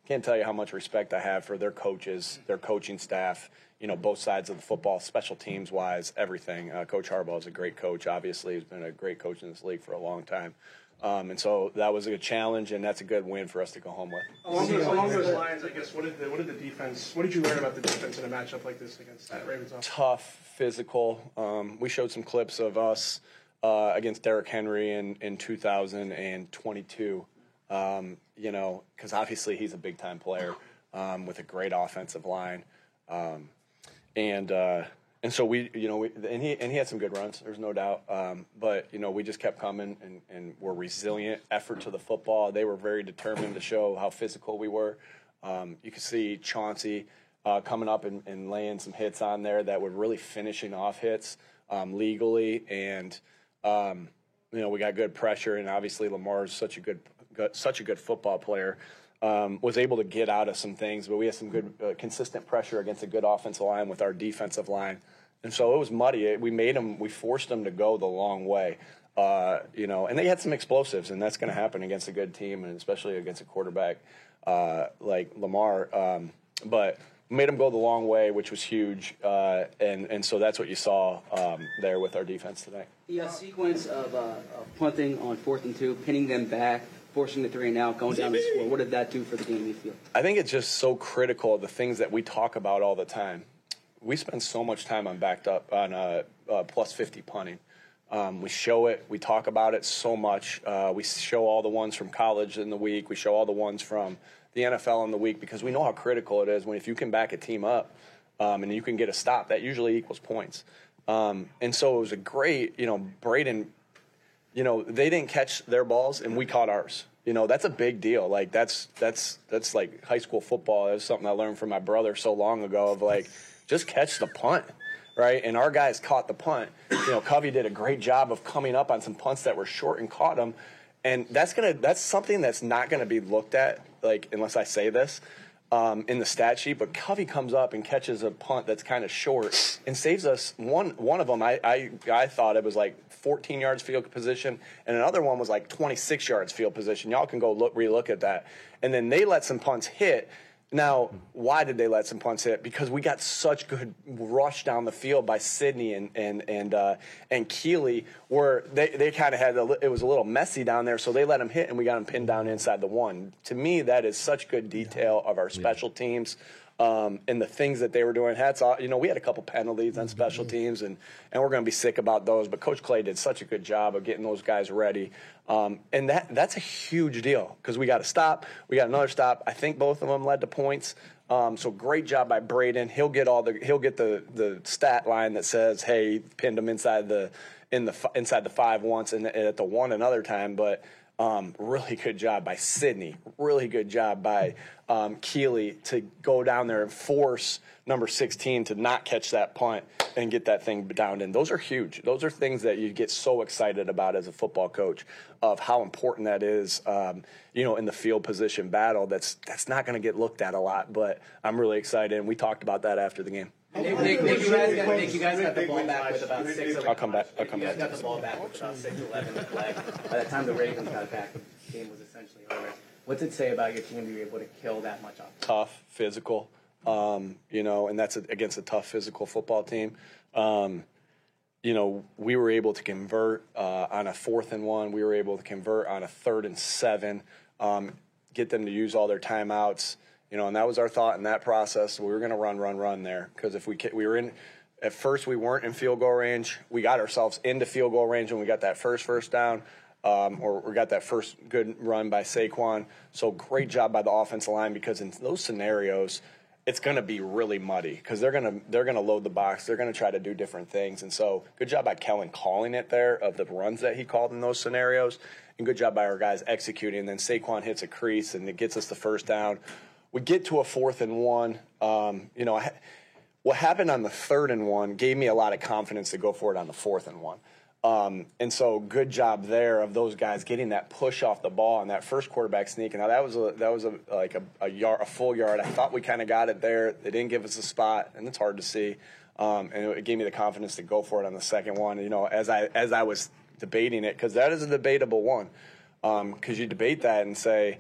can't tell you how much respect I have for their coaches, their coaching staff, you know, both sides of the football, special teams wise, everything. Uh, Coach Harbaugh is a great coach. Obviously, he's been a great coach in this league for a long time. Um, and so that was a good challenge, and that's a good win for us to go home with. Along those, along those lines, I guess, what did the what did the defense? What did you learn about the defense in a matchup like this against that Ravens offense? Tough, physical. Um, we showed some clips of us uh, against Derrick Henry in, in two thousand twenty-two. Um, you know, because obviously he's a big time player um, with a great offensive line, um, and. Uh, And so we, you know, we, and he and he had some good runs. There's no doubt. Um, but you know, we just kept coming and, and were resilient. Effort to the football. They were very determined to show how physical we were. Um, you could see Chauncey uh, coming up and, and laying some hits on there that were really finishing off hits um, legally. And um, you know, we got good pressure. And obviously, Lamar is such a good, good such a good football player. Um, was able to get out of some things, but we had some good, uh, consistent pressure against a good offensive line with our defensive line. And so it was muddy. We made them, we forced them to go the long way, uh, you know, and they had some explosives, and that's going to happen against a good team, and especially against a quarterback uh, like Lamar. Um, but made them go the long way, which was huge, uh, and, and so that's what you saw um, there with our defense tonight. The uh, sequence of, uh, of punting on fourth and two, pinning them back, forcing the three and out, going down the score. What did that do for the game, you feel? I think it's just so critical of the things that we talk about all the time. We spend so much time on backed up on uh, uh, plus fifty punting. Um, we show it. We talk about it so much. Uh, we show all the ones from college in the week. We show all the ones from the N F L in the week because we know how critical it is when if you can back a team up um, and you can get a stop, that usually equals points. Um, and so it was a great, you know, Braden, you know, they didn't catch their balls and we caught ours. You know, that's a big deal. Like that's that's that's like high school football. That's something I learned from my brother so long ago of like, just catch the punt, right? And our guys caught the punt. You know, Covey did a great job of coming up on some punts that were short and caught them. And that's gonna that's something that's not gonna be looked at, like unless I say this, um, in the stat sheet. But Covey comes up and catches a punt that's kind of short and saves us one one of them. I I, I thought it was like fourteen yards field position, and another one was like twenty-six yards field position. Y'all can go look relook at that. And then they let some punts hit. Now, why did they let some punts hit? Because we got such good rush down the field by Sidney and and and uh, and Keeley, where they, they kind of had a, it was a little messy down there, so they let them hit and we got them pinned down inside the one. To me, that is such good detail of our special teams. Um, and the things that they were doing. Hats off. You know, we had a couple penalties on special teams, and, and we're going to be sick about those. But Coach Clay did such a good job of getting those guys ready. Um, and that that's a huge deal because we got a stop. We got another stop. I think both of them led to points. Um, so great job by Braden. He'll get all the he'll get the the stat line that says, hey, pinned him inside the in the inside the five once and at the one another time. But Um, really good job by Sidney. Really good job by um, Keeley to go down there and force number sixteen to not catch that punt and get that thing down in. Those are huge. Those are things that you get so excited about as a football coach of how important that is, um, you know, in the field position battle. That's that's not going to get looked at a lot, but I'm really excited, and we talked about that after the game. Nick, Nick, Nick, you guys got, Nick, you guys got the ball back with about six. I'll come back. I'll come you guys back. got the ball back with about six eleven to play. By the time the Ravens got back, the game was essentially over. What's it say about your team to be able to kill that much offense? Tough, physical, um, you know, and that's a, against a tough physical football team. Um, you know, we were able to convert uh, on a fourth and one. We were able to convert on a third and seven, um, get them to use all their timeouts. You know, and that was our thought in that process. We were going to run, run, run there because if we we were in, at first we weren't in field goal range. We got ourselves into field goal range when we got that first first down, um, or we got that first good run by Saquon. So great job by the offensive line because in those scenarios, it's going to be really muddy because they're going to they're going to load the box. They're going to try to do different things. And so good job by Kellen calling it there of the runs that he called in those scenarios, and good job by our guys executing. And then Saquon hits a crease and it gets us the first down. We get to a fourth and one. Um, you know, what happened on the third and one gave me a lot of confidence to go for it on the fourth and one. Um, and so, good job there of those guys getting that push off the ball and that first quarterback sneak. Now that was a, that was a, like a, a yard, a full yard. I thought we kind of got it there. They didn't give us a spot, and it's hard to see. Um, and it gave me the confidence to go for it on the second one. You know, as I as I was debating it, because that is a debatable one. Because um, you debate that and say,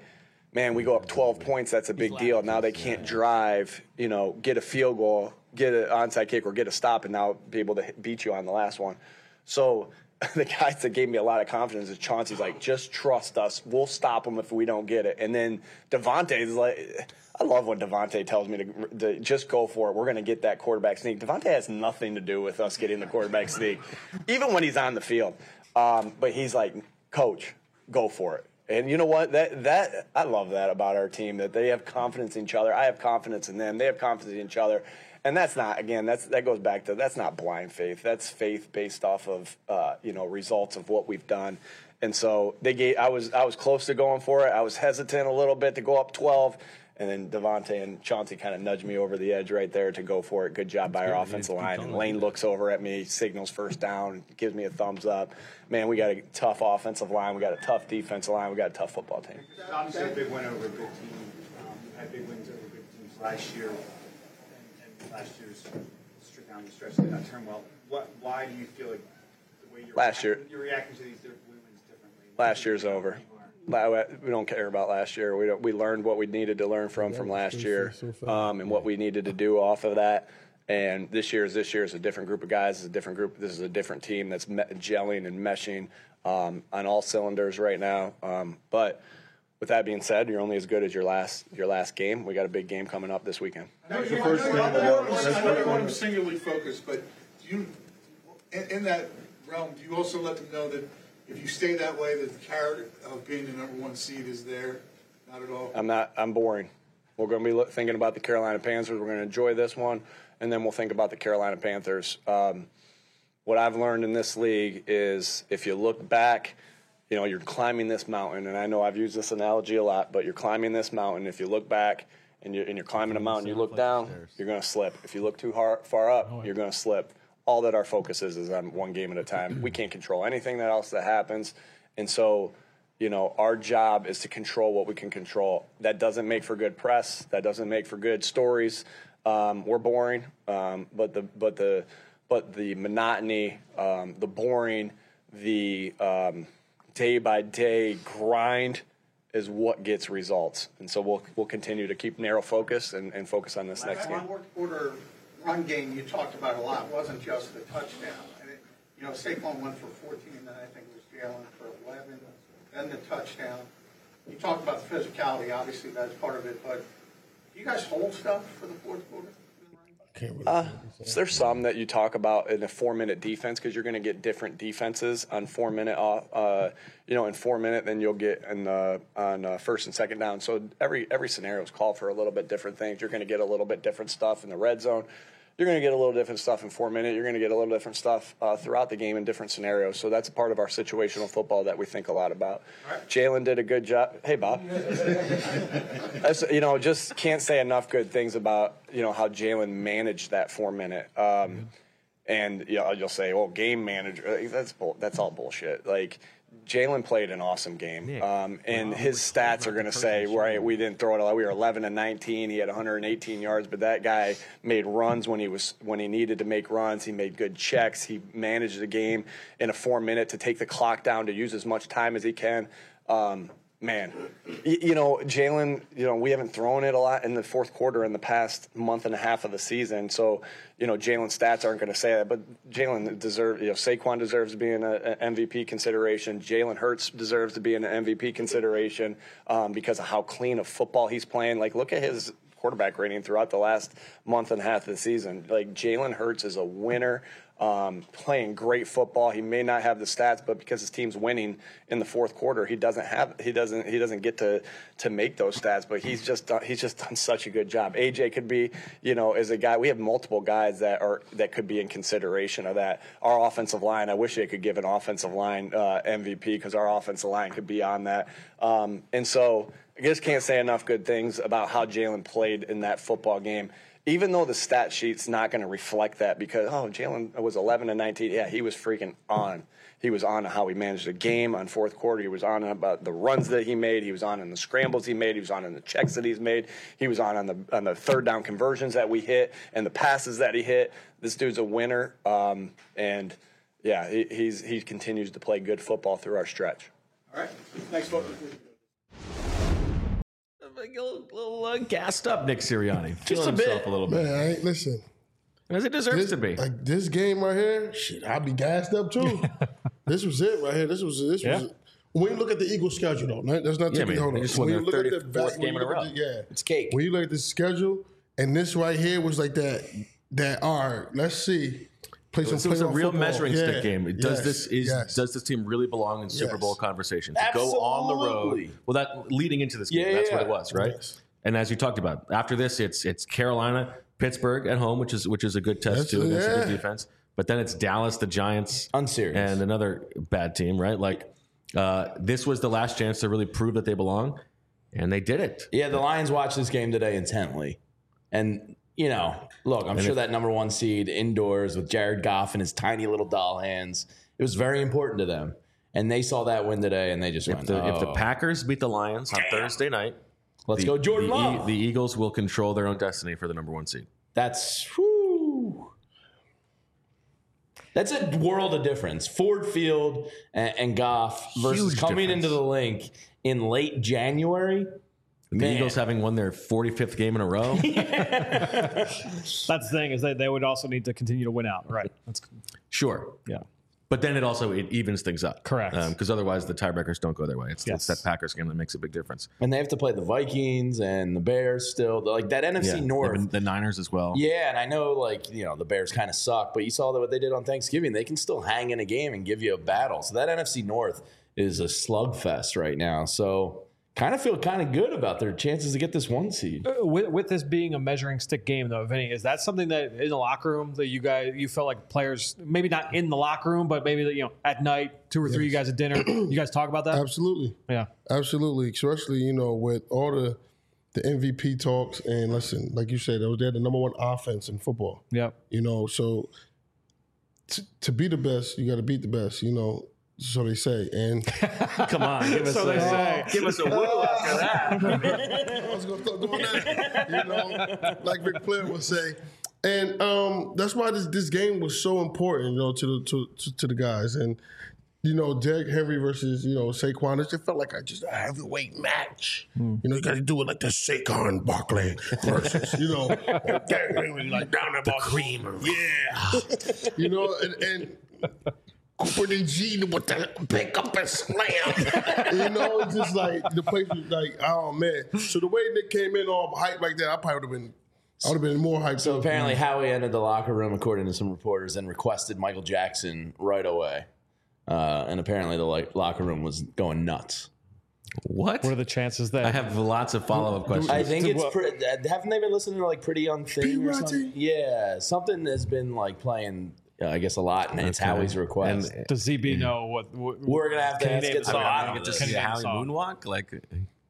man, we go up twelve points, that's a big deal. Now they can't drive, you know, get a field goal, get an onside kick, or get a stop, and now be able to hit- beat you on the last one. So the guys that gave me a lot of confidence is Chauncey's like, just trust us. We'll stop them if we don't get it. And then Devontae's like, I love when Devontae tells me to, to just go for it. We're going to get that quarterback sneak. Devontae has nothing to do with us getting the quarterback sneak, even when he's on the field. Um, but he's like, Coach, go for it. And you know what? That that I love that about our team, that they have confidence in each other. I have confidence in them. They have confidence in each other. And that's not, again, that's that goes back to, that's not blind faith. That's faith based off of, uh, you know, results of what we've done. And so they gave, I was I was close to going for it. I was hesitant a little bit to go up twelve. And then Devontae and Chauncey kind of nudged me over the edge right there to go for it. Good job by our offensive line. And Lane looks over at me, signals first down, gives me a thumbs up. Man, we got a tough offensive line. We got a tough defensive line. We got a tough football team. Obviously, a big win over a good team. Um, you had big wins over good teams last year, and, and last year's straight down the stretch did not turn well. What? Why do you feel like the way you're last year you're reacting to these wins differently? Last year's over. We don't care about last year. We don't, we learned what we needed to learn from from last year, um, and what we needed to do off of that. And this year is this year is a different group of guys. It's a different group. This is a different team that's me- gelling and meshing um, on all cylinders right now. Um, but with that being said, you're only as good as your last your last game. We got a big game coming up this weekend. That's the first game. I know you want them singularly focused, but do you, in, in that realm, do you also let them know that if you stay that way, that the carrot of being the number one seed is there? Not at all. I'm not. I'm boring. We're going to be look, thinking about the Carolina Panthers. We're going to enjoy this one, and then we'll think about the Carolina Panthers. Um, what I've learned in this league is if you look back, you know, you're climbing this mountain, and I know I've used this analogy a lot, but you're climbing this mountain. If you look back and you're, and you're climbing a mountain, you look down, you're going to slip. If you look too hard, far up, you're going to slip. All that our focus is is on one game at a time. We can't control anything that else that happens. And so, you know, our job is to control what we can control. That doesn't make for good press. That doesn't make for good stories. Um, we're boring, um, but the but the but the monotony, um, the boring, the um, day by day grind is what gets results. And so we'll we'll continue to keep narrow focus and, and focus on this next game. Fourth quarter run game you talked about a lot wasn't just the touchdown. And it, you know, Saquon went for fourteen, and then I think it was Jalen for eleven, then the touchdown. You talked about the physicality, obviously that's part of it, but do you guys hold stuff for the fourth quarter? Uh, there's some that you talk about in a four-minute defense because you're going to get different defenses on four-minute off. Uh, you know, in four-minute, then you'll get in the, on uh, first and second down. So every every scenario is called for a little bit different things. You're going to get a little bit different stuff in the red zone. You're going to get a little different stuff in four-minute. You're going to get a little different stuff uh, throughout the game in different scenarios. So that's a part of our situational football that we think a lot about. Right. Jalen did a good job. Hey, Bob. That's, you know, just can't say enough good things about, you know, how Jalen managed that four-minute. Um, mm-hmm. And you know, you'll say, "Well, game manager." That's bull- that's all bullshit. Like, Jalen played an awesome game, um, and his stats are going to say, right, we didn't throw it a lot. We were eleven and nineteen. He had one hundred eighteen yards, but that guy made runs when he was when he needed to make runs. He made good checks. He managed the game in a four minute to take the clock down to use as much time as he can. Um, Man, you, you know, Jalen, you know, we haven't thrown it a lot in the fourth quarter in the past month and a half of the season. So, you know, Jalen's stats aren't going to say that. But Jalen deserves, you know, Saquon deserves to be in an M V P consideration. Jalen Hurts deserves to be in an M V P consideration um, because of how clean of football he's playing. Like, look at his quarterback rating throughout the last month and a half of the season. Like, Jalen Hurts is a winner. Um, playing great football. He may not have the stats, but because his team's winning in the fourth quarter, he doesn't have he doesn't he doesn't get to to make those stats. But he's just done, he's just done such a good job. A J could be, you know, as a guy. We have multiple guys that are that could be in consideration of that. Our offensive line. I wish they could give an offensive line uh, M V P because our offensive line could be on that. Um, and so I just can't say enough good things about how Jalen played in that football game. Even though the stat sheet's not going to reflect that because, oh, Jalen was eleven and nineteen. Yeah, he was freaking on. He was on how he managed the game on fourth quarter. He was on about the runs that he made. He was on in the scrambles he made. He was on in the checks that he's made. He was on on the on the third down conversions that we hit and the passes that he hit. This dude's a winner. Um, and, yeah, he, he's he continues to play good football through our stretch. All right. Thanks, folks. a little, little uh, gassed up, Nick Sirianni. Just Feeling a bit. himself a little bit. Man, I ain't, listen. As it deserves This, to be. like this game right here, shit, I'd be gassed up too. This was it right here. This was this Yeah. was. When you look at the Eagles' schedule, though, right? That's not Yeah, taking man, hold they on. just won When their you look at the thirty-fourth back- game when in a you look row. at the- yeah, It's cake. When you look at the schedule, and this right here was like that. That all right, let's see. Play some This was a playoff real football. measuring Yeah. stick game. Does Yes. this is Yes. does this team really belong in Super Yes. Bowl conversation? To go on the road. Absolutely. Well, that leading into this game, Yeah, that's yeah, what it yeah. was, right? Yes. And as you talked about, after this, it's it's Carolina, Pittsburgh at home, which is which is a good test That's- too against a good yeah. defense. But then it's Dallas, the Giants, Unserious. and another bad team, right? Like uh, this was the last chance to really prove that they belong, and they did it. Yeah, the Lions watched this game today intently. And, you know, look, I'm sure if- that number one seed indoors with Jared Goff and his tiny little doll hands, it was very important to them. And they saw that win today, and they just If went, the, if the "Oh, Packers beat the Lions on Thursday night, let's the, go Jordan the, E- Love." the Eagles will control their own destiny for the number one seed. That's whew. That's a world of difference. Ford Field and, and Goff versus Huge coming difference. into the link in late January. The Man. Eagles having won their forty-fifth game in a row. That's the thing is that they would also need to continue to win out. Right. That's Sure. yeah. But then it also it evens things up. Correct. Because otherwise the tiebreakers don't go their way. It's, Yes. it's that Packers game that makes a big difference. And they have to play the Vikings and the Bears still. Like that N F C Yeah. North. Even the Niners as well. Yeah, and I know, like, you know, the Bears kind of suck, but you saw that what they did on Thanksgiving. They can still hang in a game and give you a battle. So that N F C North is a slugfest right now. So kind of feel kind of good about their chances to get this one seed. With, with this being a measuring stick game, though, Vinny, is that something that in the locker room that you guys you felt like players maybe not in the locker room, but maybe you know at night, two or three, you guys at dinner, you guys talk about that? Absolutely. Yeah. Absolutely. Especially, you know, with all the the M V P talks and listen, like you said, they're the number one offense in football. Yep. You know, so to, to be the best, you got to beat the best, you know, so they say. And Come on. Give us, So they a, say. give us a woo after that. I was going to start doing that, you know, like Ric Flair would say. And um, that's why this, this game was so important, you know, to the to, to, to the guys. And, you know, Derrick Henry versus, you know, Saquon, it just felt like a, just a heavyweight match. You know, you got to do it like the Saquon Barkley versus, you know, Derrick Henry like down the creamer. Yeah. You know, and, and Cooper DeJean with the pick up and slam. You know, it's just like the place was like, oh man. So the way Nick came in all hyped like that, I probably would have been I would have been more hyped. So up. apparently Howie entered the locker room, according to some reporters, and requested Michael Jackson right away. Uh, and apparently the like, locker room was going nuts. What? What are the chances that I have lots of follow-up questions. I think To it's what- pretty. Haven't they been listening to like Pretty Young Thing or P-Rotty? something? Yeah, something has been like playing. Uh, I guess a lot, and it's Okay. Howie's request. And- does Z B know what, what We're gonna have to can he ask name it the to song? I don't get to know. Can see he name the Howie song? moonwalk. Like,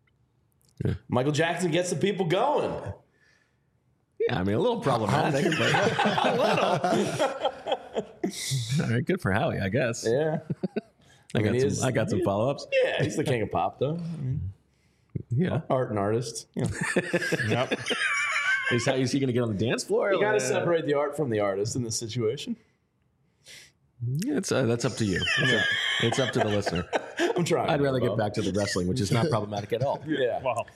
Michael Jackson gets the people going. yeah, I mean, a little problematic. but All right, good for Howie, I guess. Yeah, I, mean, got he some, is- I got some follow-ups. yeah, he's the king of pop, though. I mean, Yeah. art and artist. You, know. Is, how, is he going to get on the dance floor? You got to Like, separate the art from the artist in this situation. Yeah, it's, uh, that's up to you. It's up, it's up to the listener. I'm trying. I'd rather get Bob. back to the wrestling, which is not problematic at all. Yeah. Wow.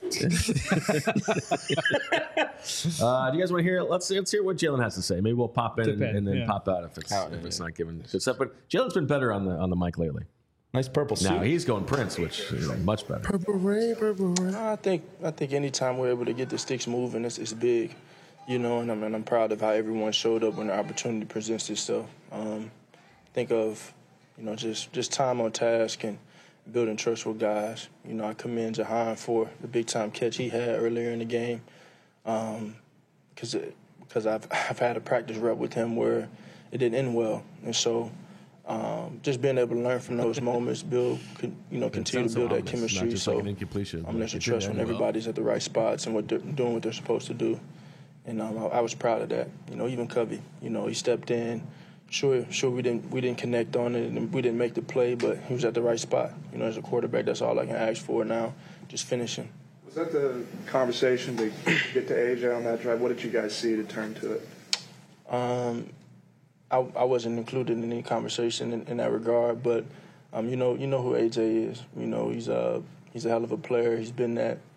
Uh, do you guys want to hear? Let's let's hear what Jalen has to say. Maybe we'll pop in, Dip and, in, and then yeah. pop out if it's Oh, if it's yeah. not given good stuff. But Jalen's been better on the on the mic lately. Nice purple suit. Now he's going Prince, which is much better. Purple rain, purple rain. I think I think anytime we're able to get the sticks moving, it's, it's big, you know. And I'm and I'm proud of how everyone showed up when the opportunity presents itself. Um, think of, you know, just just time on task and building trust with guys. You know, I commend Jahan for the big time catch he had earlier in the game, because because I've I've had a practice rep with him where it didn't end well, and so. Um, just being able to learn from those moments, build, con, you know, continue to sounds so build that ominous, not chemistry. just So like an incompletion. I'm Like, gonna it trust did when end well. everybody's at the right spots and what they're doing, what they're supposed to do. And um, I, I was proud of that. You know, even Covey, you know, he stepped in. Sure, sure, we didn't we didn't connect on it and we didn't make the play, but he was at the right spot. You know, as a quarterback, that's all I can ask for now, just finishing. Was that the conversation to get to A J on that drive? What did you guys see to turn to it? Um, I, I wasn't included in any conversation in, in that regard, but um, you know, you know who A J is. You know, he's a he's a hell of a player. He's been that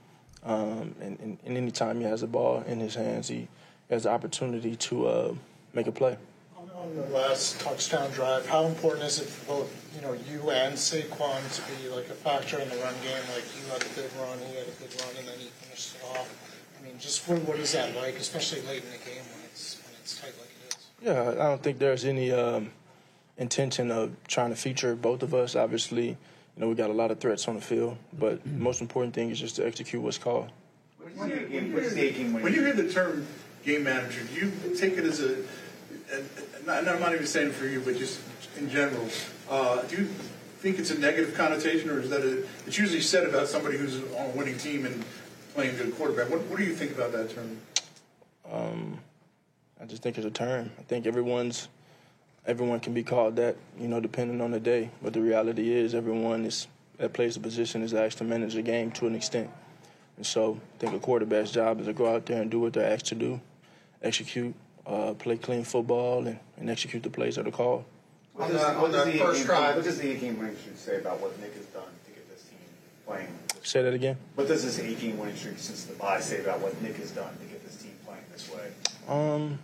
Um, and, and, and anytime he has the ball in his hands, he has the opportunity to uh, make a play. On the last touchdown drive, how important is it for both, you know, you and Saquon to be like a factor in the run game? Like you had a good run, he had a good run, and then he finished it off. I mean, just what, what is that like, especially late in the game when it's when it's tight like it is? Yeah, I don't think there's any um, intention of trying to feature both of us. Obviously, you know, we got a lot of threats on the field, but the most important thing is just to execute what's called. When you, when you hear the term game manager, do you take it as a, a, a not, I'm not even saying for you, but just in general, uh, do you think it's a negative connotation, or is that a, it's usually said about somebody who's on a winning team and playing good quarterback? What, what do you think about that term? Um, I just think it's a term. I think everyone's everyone can be called that, you know, depending on the day. But the reality is, everyone is that plays the position is asked to manage the game to an extent. And so I think a quarterback's job is to go out there and do what they're asked to do, execute, uh, play clean football, and, and execute the plays that are called. What On does, the- what on does the the first game, drive- what does the eight-game winning streak say about what Nick has done to get this team playing? Say that again. What does this eight-game winning streak since the bye say about what Nick has done to get this team playing this way? Um,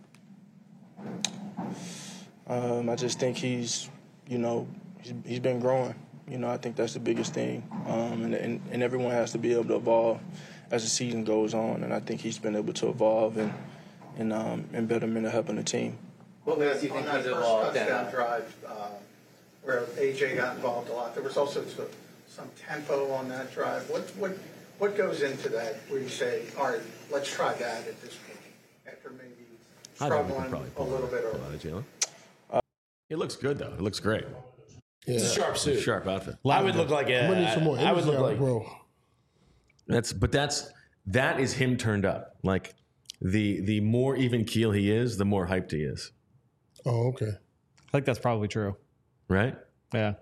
um, I just think he's, you know, he's, he's been growing. You know, I think that's the biggest thing. Um, and, and, and everyone has to be able to evolve as the season goes on. And I think he's been able to evolve and and um, and betterment of helping the team. What ways do you On think that he's first evolved? touchdown And, drive, uh, where A J got involved a lot, there was also some, some tempo on that drive. What what what goes into that? Where you say, all right, let's try that at this point, after maybe I think we could struggling probably a pull little bit a early. lot of Jalen. It looks good though. It looks great. Yeah. It's a sharp suit. Sharp outfit. I would look like a. I'm gonna need some more I would energy look out of like. bro. That's but that's that is him turned up. Like the the more even keel he is, the more hyped he is. Oh, okay. I think that's probably true. Right? Yeah.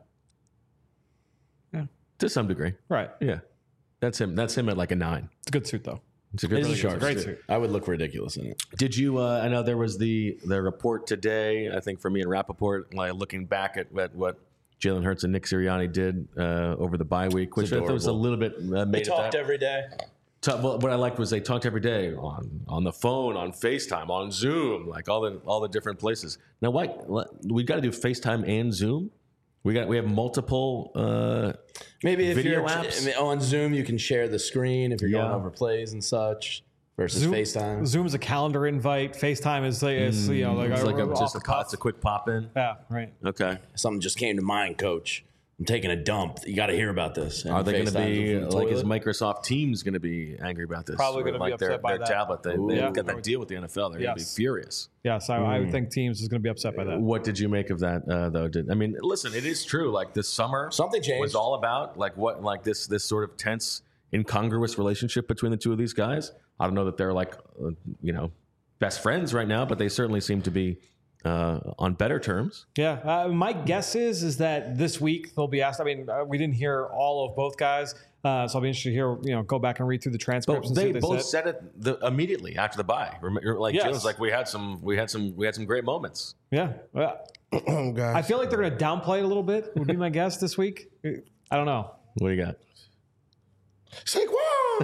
To some degree. Right. Yeah. That's him. That's him at like a nine. It's a good suit though. It's a good It's a really sharp good Great suit. suit. I would look ridiculous in it. Did you uh, I know there was the the report today, I think for me and Rappaport, like looking back at, at what Jalen Hurts and Nick Sirianni did uh, over the bye week, which I thought was a adorable. little bit uh, made They of talked that. every day. Ta- well, what I liked was they talked every day on on the phone, on FaceTime, on Zoom, like all the all the different places. Now, what we got to do FaceTime and Zoom? We got we have multiple. Uh, Maybe if Video you're apps? I mean, on Zoom, you can share the screen if you're going Yeah. over plays and such versus Zoom, FaceTime. Zoom's a calendar invite. FaceTime is like, it's, you know, like it's like a, off just the a, pop, cuff. it's a quick pop in. Yeah, right. Okay. Something just came to mind, Coach. I'm taking a dump. You got to hear about this. And Are they going to FaceTimes be them from the like is toilet. Microsoft Teams going to be angry about this? Probably Or gonna be like their, upset by their that. tablet. They, Ooh. they've Yeah. got that deal with the N F L. They're going to be Yes. furious. Yes, I, I would think Teams is going to be upset by that. What did you make of that uh, though? Did I mean, listen, it is true. Like this summer, Something changed. was all about like what, like this this sort of tense, incongruous relationship between the two of these guys. I don't know that they're like, uh, you know, best friends right now, but they certainly seem to be uh, on better terms. Yeah, uh, my guess is is that this week they'll be asked. I mean, uh, we didn't hear all of both guys, uh, so I'll be interested to hear. You know, go back and read through the transcripts. But and see they what both said. said it the, immediately after the bye. Remember, like Yes. Jalen's like, we had some, we had some, we had some great moments. Yeah, yeah. Oh, God. I feel like they're going to downplay it a little bit. Would be my guess this week. I don't know. What do you got? Saquon.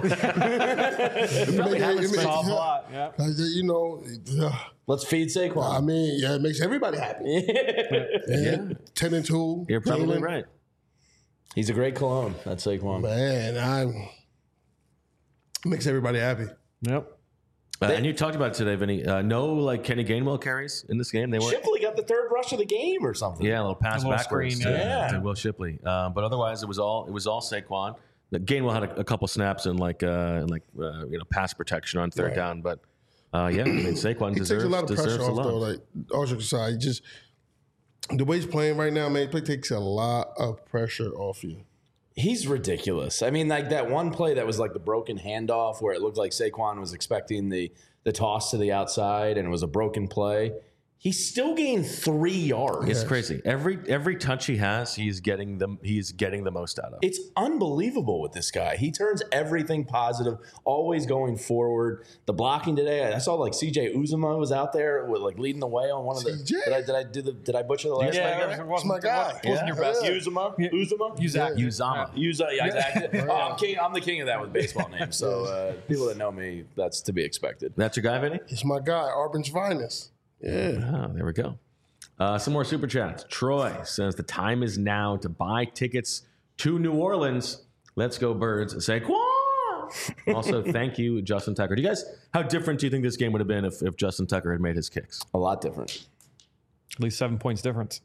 Probably haven't It's spent- an awful lot. Yeah. Uh, you know, uh, Let's feed Saquon. I mean, yeah, it makes everybody happy. Yeah. Ten and two. You're probably Jalen. right. He's a great cologne. That's Saquon. Man, I'm makes everybody happy. Yep. Uh, and you talked about it today, Vinny. Uh, no, like Kenny Gainwell carries in this game. They weren't. Shipley got the third rush of the game or something. Yeah, a little pass A little backwards screen, to, yeah. to Will Shipley. Uh, but otherwise, it was all it was all Saquon. The Gainwell had a, a couple snaps and like uh, like uh, you know pass protection on third Right. down, but uh, yeah, I mean Saquon He deserves takes a lot of deserves pressure the off love. though. Like all jokes aside, he just the way he's playing right now, man, it takes a lot of pressure off you. He's ridiculous. I mean, like that one play that was like the broken handoff where it looked like Saquon was expecting the the toss to the outside and it was a broken play. he still gained three yards. It's crazy. Every every touch he has, he's getting the he's getting the most out of. It's unbelievable with this guy. He turns everything positive, always going forward. The blocking today, I saw like C J Uzomah was out there with like leading the way on one of the. C J? Did I did I do the did I butcher the last Yeah, name? it wasn't, my guy. It wasn't Yeah. your best. Yeah. Uzomah, Uzomah, Uzak. Uzama. Uza, yeah, exactly. Oh, I'm king. I'm the king of that with baseball names. So uh, people that know me, that's to be expected. That's your guy, Vinny? It's my guy, Arbin's finest. Yeah. Oh, there we go. Uh, some more super chats. Troy says the time is now to buy tickets to New Orleans. Let's go, Birds. Saquon. Also, thank you, Justin Tucker. Do you guys, how different do you think this game would have been if, if Justin Tucker had made his kicks? A lot different. At least seven points difference.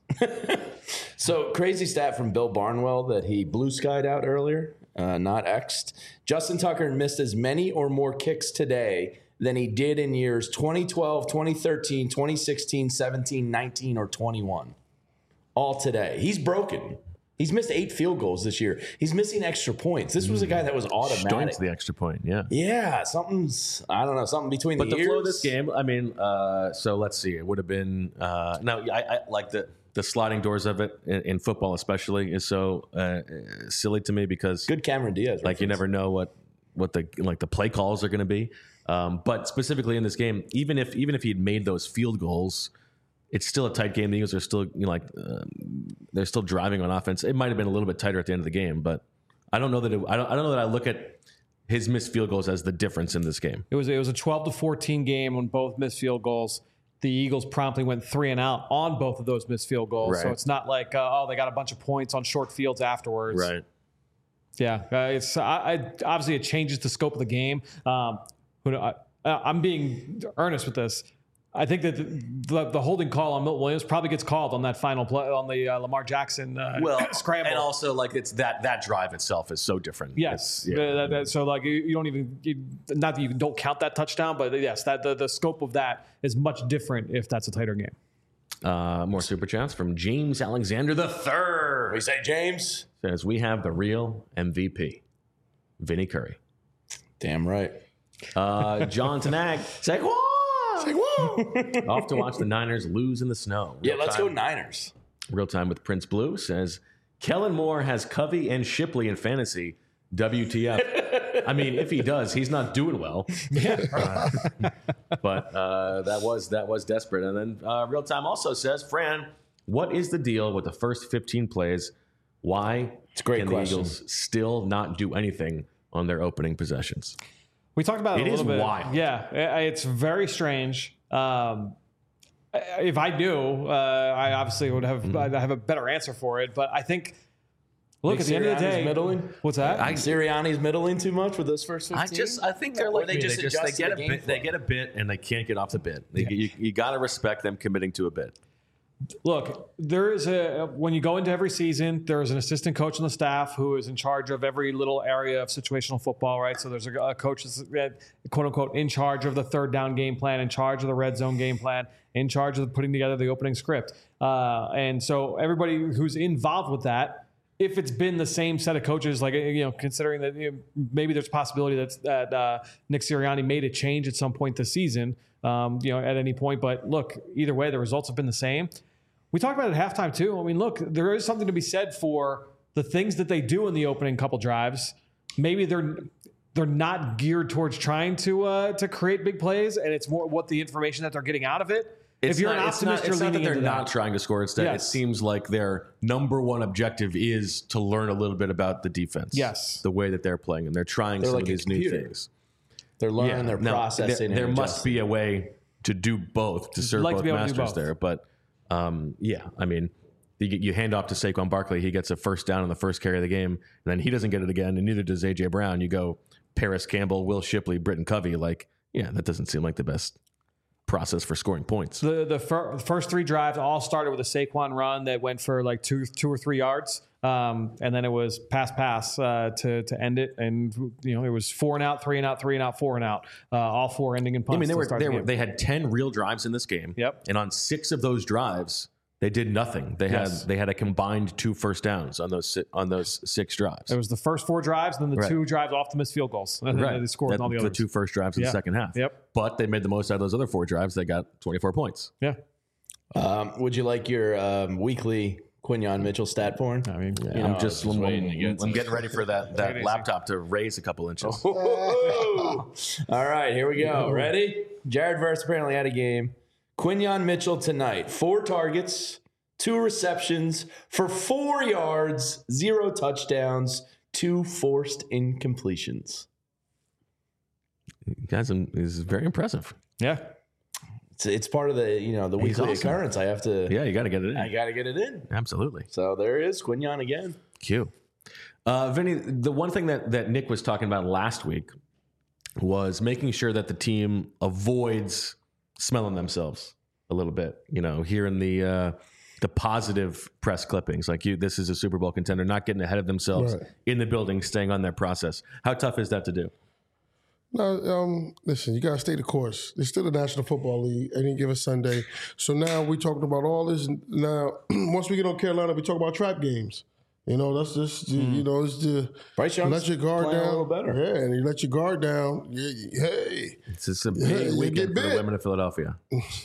So crazy stat from Bill Barnwell that he blue skied out earlier, uh, not X'd. Justin Tucker missed as many or more kicks today than he did in years twenty twelve, twenty thirteen, twenty sixteen, seventeen, nineteen, or twenty-one. All today. He's broken. He's missed eight field goals this year. He's missing extra points. This was a guy that was automatic. Stoin's the extra point, yeah. Yeah, something's, I don't know, something between But the the ears. flow of this game, I mean, uh, so let's see. It would have been, uh, no, I, I like the, the sliding doors of it in, in football especially is so uh, silly to me because Good Cameron Diaz. like you reference. never know what, what the like the play calls are going to be. Um, but specifically in this game, even if even if he had made those field goals, it's still a tight game. The Eagles are still, you know, like uh, they're still driving on offense. It might have been a little bit tighter at the end of the game, but I don't know that it, I don't I don't know that I look at his missed field goals as the difference in this game. It was it was a twelve to fourteen game on both missed field goals. The Eagles promptly went three and out on both of those missed field goals. So Right. it's not like uh, oh they got a bunch of points on short fields afterwards. Right. Yeah, uh, it's I, I, obviously it changes the scope of the game. Um, but I, I'm being earnest with this. I think that the, the, the holding call on Milton Williams probably gets called on that final play on the uh, Lamar Jackson uh, Well, scramble. and also like it's that that drive itself is so different. Yes. It's- yeah. Uh, that- that- so like you, you don't even you, not that you don't count that touchdown, but yes, that the, the scope of that is much different if that's a tighter game. Uh, more super chats from James Alexander the third. We say James. Says we have the real M V P, Vinny Curry. Damn right. Uh, John Tanag, Saquon. Saquon. Off to watch the Niners lose in the snow. Yeah, Real let's time, go Niners. Real time with Prince Blue says Kellen Moore has Covey and Shipley in fantasy. W T F. I mean, if he does, he's not doing well. Uh, but uh, that was that was desperate. And then uh, Real Time also says, Fran, what is the deal with the first fifteen plays? Why It's a great can question. the Eagles still not do anything on their opening possessions? We talked about it, It a is little bit. wild. Yeah, i- it's very strange. Um, if I knew, uh, I obviously would have Mm-hmm. I'd have a better answer for it. But I think, look, at the end of the Sirianni's day, middling? what's that? I, Sirianni's middling too much with those first fifteen. I just I think they're Or like they me. just they, just, adjust they to get a the game bit they flow? get a bit and they can't get off the bit. They, You, you got to respect them committing to a bit. Look, there is a when you go into every season, there is an assistant coach on the staff who is in charge of every little area of situational football, right? So there's a, a coach that's uh, quote unquote in charge of the third down game plan, in charge of the red zone game plan, in charge of putting together the opening script, uh, and so everybody who's involved with that. If it's been the same set of coaches, like, you know, considering that you know, maybe there's a possibility that, that uh, Nick Sirianni made a change at some point this season, um, you know, at any point. But look, either way, the results have been the same. We talked about it at halftime too. I mean, look, there is something to be said for the things that they do in the opening couple drives. Maybe they're they're not geared towards trying to uh, to create big plays, and it's more what the information that they're getting out of it. It's if you're not, an it's not, optimist, it's you're not that leaning they're into not that. trying to score. Instead, Yes. it seems like their number one objective is to learn a little bit about the defense. Yes. The way that they're playing, and they're trying They're some like of a these new computer. things. They're learning, they're Now, processing. There, there and must adjusting. be a way to do both, to serve like to both be able to do masters both. there. But um, yeah, I mean, you, get- you hand off to Saquon Barkley, he gets a first down on the first carry of the game, and then he doesn't get it again, and neither does A J Brown. You go Paris Campbell, Will Shipley, Britton Covey. Like, yeah, that doesn't seem like the best process for scoring points. The the fir- first three drives all started with a Saquon run that went for like two two or three yards, um, and then it was pass pass uh, to to end it, and you know it was four and out, three and out, three and out, four and out, uh, all four ending in punts. I mean, they to were start they the were game. they had ten real drives in this game. Yep. And on six of those drives, they did nothing. They Yes. had they had a combined two first downs on those si- on those six drives. It was the first four drives, and then the Right. two drives off the missed field goals, and then right. they scored That- in all the the others. two first drives in Yeah. the second half. Yep. But they made the most out of those other four drives. They got twenty-four points. Yeah. Um, would you like your um, weekly Quinyon Mitchell stat porn? I mean, you know, I'm just, I'm, waiting to get I'm to getting ready for that, that laptop to raise a couple inches. All right, here we go. Ready? Jared Verse apparently had a game. Quinyon Mitchell tonight. Four targets, two receptions for four yards, zero touchdowns, two forced incompletions. Guys, is very impressive. Yeah. It's, it's part of the, you know, the weekly awesome. occurrence. I have to. Yeah, you got to get it in. I got to get it in. Absolutely. So there is Quinyon again. Q. Uh, Vinny, the one thing that, that Nick was talking about last week was making sure that the team avoids smelling themselves a little bit. You know, hearing the uh, the positive press clippings, like you, this is a Super Bowl contender, not getting ahead of themselves Right. in the building, staying on their process. How tough is that to do? No, um, listen, you got to stay the course. There's still the National Football League any given Sunday. So now we talking about all this. Now, once we get on Carolina, we talk about trap games. You know, that's just, mm. you know, it's the, Bryce you Young's let your guard playing down. a little better. Yeah, and you let your guard down. Yeah, hey. It's just a big Yeah, you weekend get for the bit. women of Philadelphia.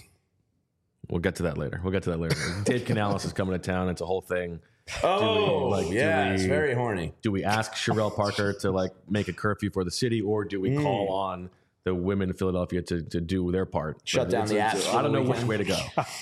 We'll get to that later. We'll get to that later. Dave Canales is coming to town. It's a whole thing. Oh, do we, like, yeah, do we, it's very horny. Do we ask Sherelle Parker to like make a curfew for the city, or do we Mm. call on the women of Philadelphia to, to do their part? Shut But down it's- the it's- apps for I don't the know which weekend. way to go.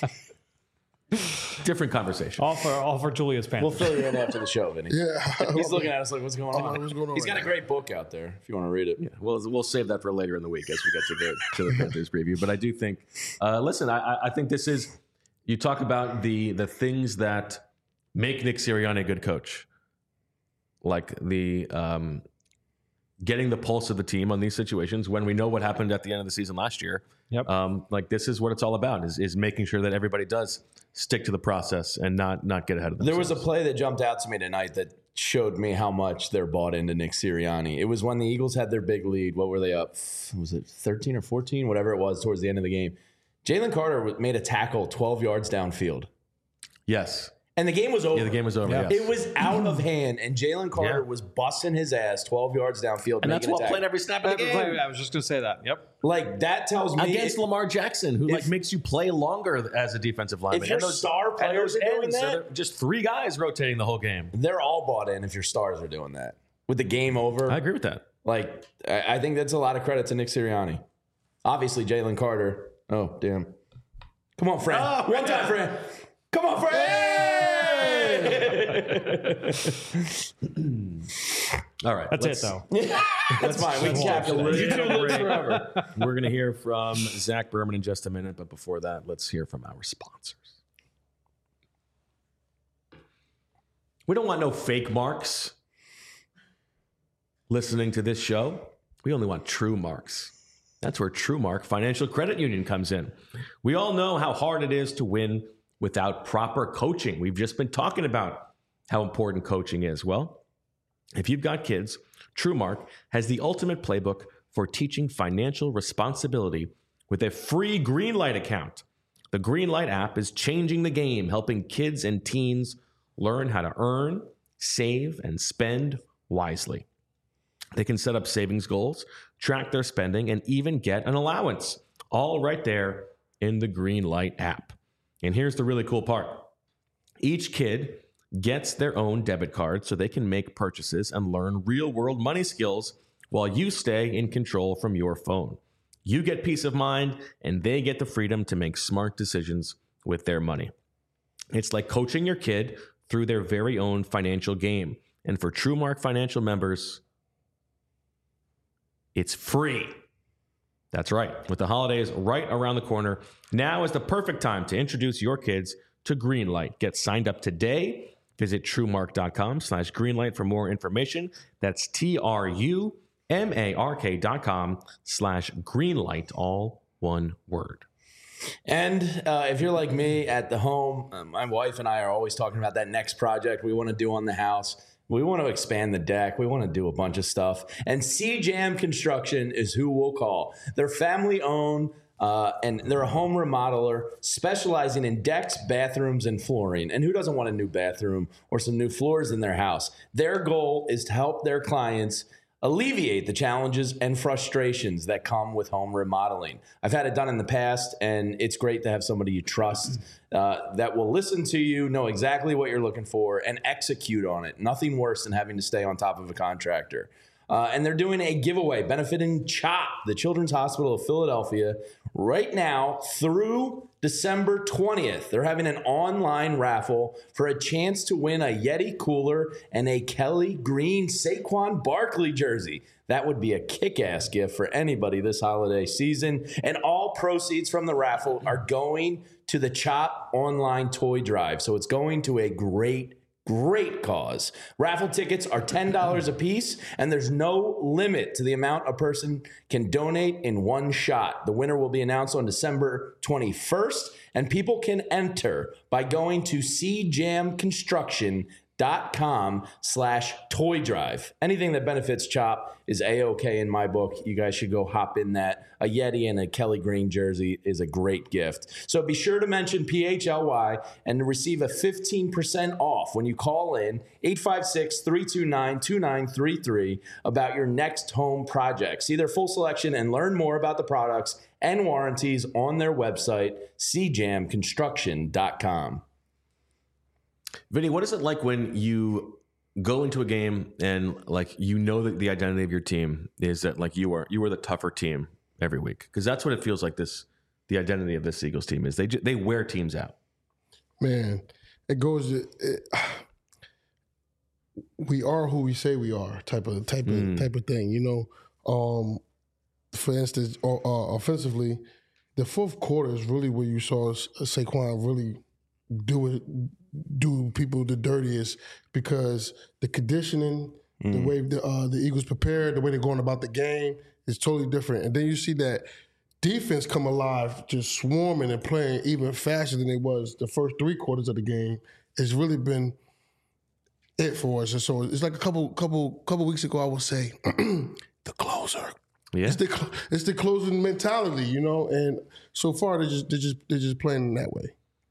Different conversation. All for all for Julius We'll Panthers. fill you in after the show, Vinny. Yeah. He's looking at us like, what's going I'm on? like, what's going on He's right got a now? great book out there if you want to read it. Yeah, we'll we'll save that for later in the week as we get to the to the Panthers preview. But I do think, uh, listen, I, I think this is, you talk about the the things that make Nick Sirianni a good coach, like the um, getting the pulse of the team on these situations when we know what happened at the end of the season last year. Yep. Um, like this is what it's all about, is is making sure that everybody does stick to the process and not not get ahead of themselves. There was a play that jumped out to me tonight that showed me how much they're bought into Nick Sirianni. It was when the Eagles had their big lead. What were they up? Was it thirteen or fourteen? Whatever it was towards the end of the game. Jalen Carter made a tackle twelve yards downfield. Yes. And the game was over. Yeah, the game was over. Yeah. Yes. It was out of hand, and Jalen Carter Yeah. was busting his ass twelve yards downfield. and that's making a what tackle. playing every snap of the game. I was just going to say that. Yep. Like, that tells me. Against Lamar Jackson, who like if- makes you play longer as a defensive lineman. your And those- star and players those are doing ends, so that- they're just three guys rotating the whole game. They're all bought in if your stars are doing that. With the game over. I agree with that. Like, I I think that's a lot of credit to Nick Sirianni. Obviously, Jalen Carter. Oh, damn. Come on, Fran. Oh, One time, Fran. Come on, Fran. All right, That's let's- it, though. That's fine. We can capitalize. You can live forever. We're going to hear from Zach Berman in just a minute, but before that, let's hear from our sponsors. We don't want no fake marks listening to this show. We only want true marks. That's where TrueMark Financial Credit Union comes in. We all know how hard it is to win without proper coaching. We've just been talking about how important coaching is. Well, if you've got kids, TrueMark has the ultimate playbook for teaching financial responsibility with a free Greenlight account. The Greenlight app is changing the game, helping kids and teens learn how to earn, save, and spend wisely. They can set up savings goals, track their spending, and even get an allowance, all right there in the Greenlight app. And here's the really cool part. Each kid gets their own debit card so they can make purchases and learn real-world money skills while you stay in control from your phone. You get peace of mind, and they get the freedom to make smart decisions with their money. It's like coaching your kid through their very own financial game. And for TrueMark Financial members, it's free. That's right. With the holidays right around the corner, now is the perfect time to introduce your kids to Greenlight. Get signed up today. Visit TrueMark.com slash Greenlight for more information. That's T-R-U-M-A-R-K dot com slash Greenlight, all one word. And uh, if you're like me at the home, uh, my wife and I are always talking about that next project we want to do on the house. We want to expand the deck. We want to do a bunch of stuff. And C Jam Construction is who we'll call. They're family owned, uh, and they're a home remodeler specializing in decks, bathrooms, and flooring. And who doesn't want a new bathroom or some new floors in their house? Their goal is to help their clients alleviate the challenges and frustrations that come with home remodeling. I've had it done in the past, and it's great to have somebody you trust uh, that will listen to you, know exactly what you're looking for, and execute on it. Nothing worse than having to stay on top of a contractor. Uh, and they're doing a giveaway benefiting CHOP, the Children's Hospital of Philadelphia, right now through December twentieth. They're having an online raffle for a chance to win a Yeti cooler and a Kelly Green Saquon Barkley jersey. That would be a kick-ass gift for anybody this holiday season. And all proceeds from the raffle are going to the CHOP online toy drive. So it's going to a great Great cause. Raffle tickets are ten dollars a piece, and there's no limit to the amount a person can donate in one shot. The winner will be announced on December twenty-first, and people can enter by going to c jam construction dot com slash toy drive. Anything that benefits CHOP is A-okay in my book. You guys should go hop in that. A Yeti and a Kelly Green jersey is a great gift. So be sure to mention P H L Y and receive a fifteen percent off when you call in eight five six, three two nine, two nine three three about your next home project. See their full selection and learn more about the products and warranties on their website, c jam construction dot com. Vinny, what is it like when you go into a game and like you know that the identity of your team is that like you are you are the tougher team every week? Because that's what it feels like. This the identity of this Eagles team is they they wear teams out. Man, it goes. It, we are who we say we are. Type of type of mm. type of thing. You know, um, for instance, uh, offensively, the fourth quarter is really where you saw Saquon really do it. do people the dirtiest because the conditioning, mm. the way the, uh, the Eagles prepared, the way they're going about the game is totally different. And then you see that defense come alive, just swarming and playing even faster than it was the first three quarters of the game. It's really been it for us. And so it's like a couple couple couple weeks ago, I would say, the closer. Yeah. It's the it's the closing mentality, you know. And so far, they're just they're just they're just playing that way.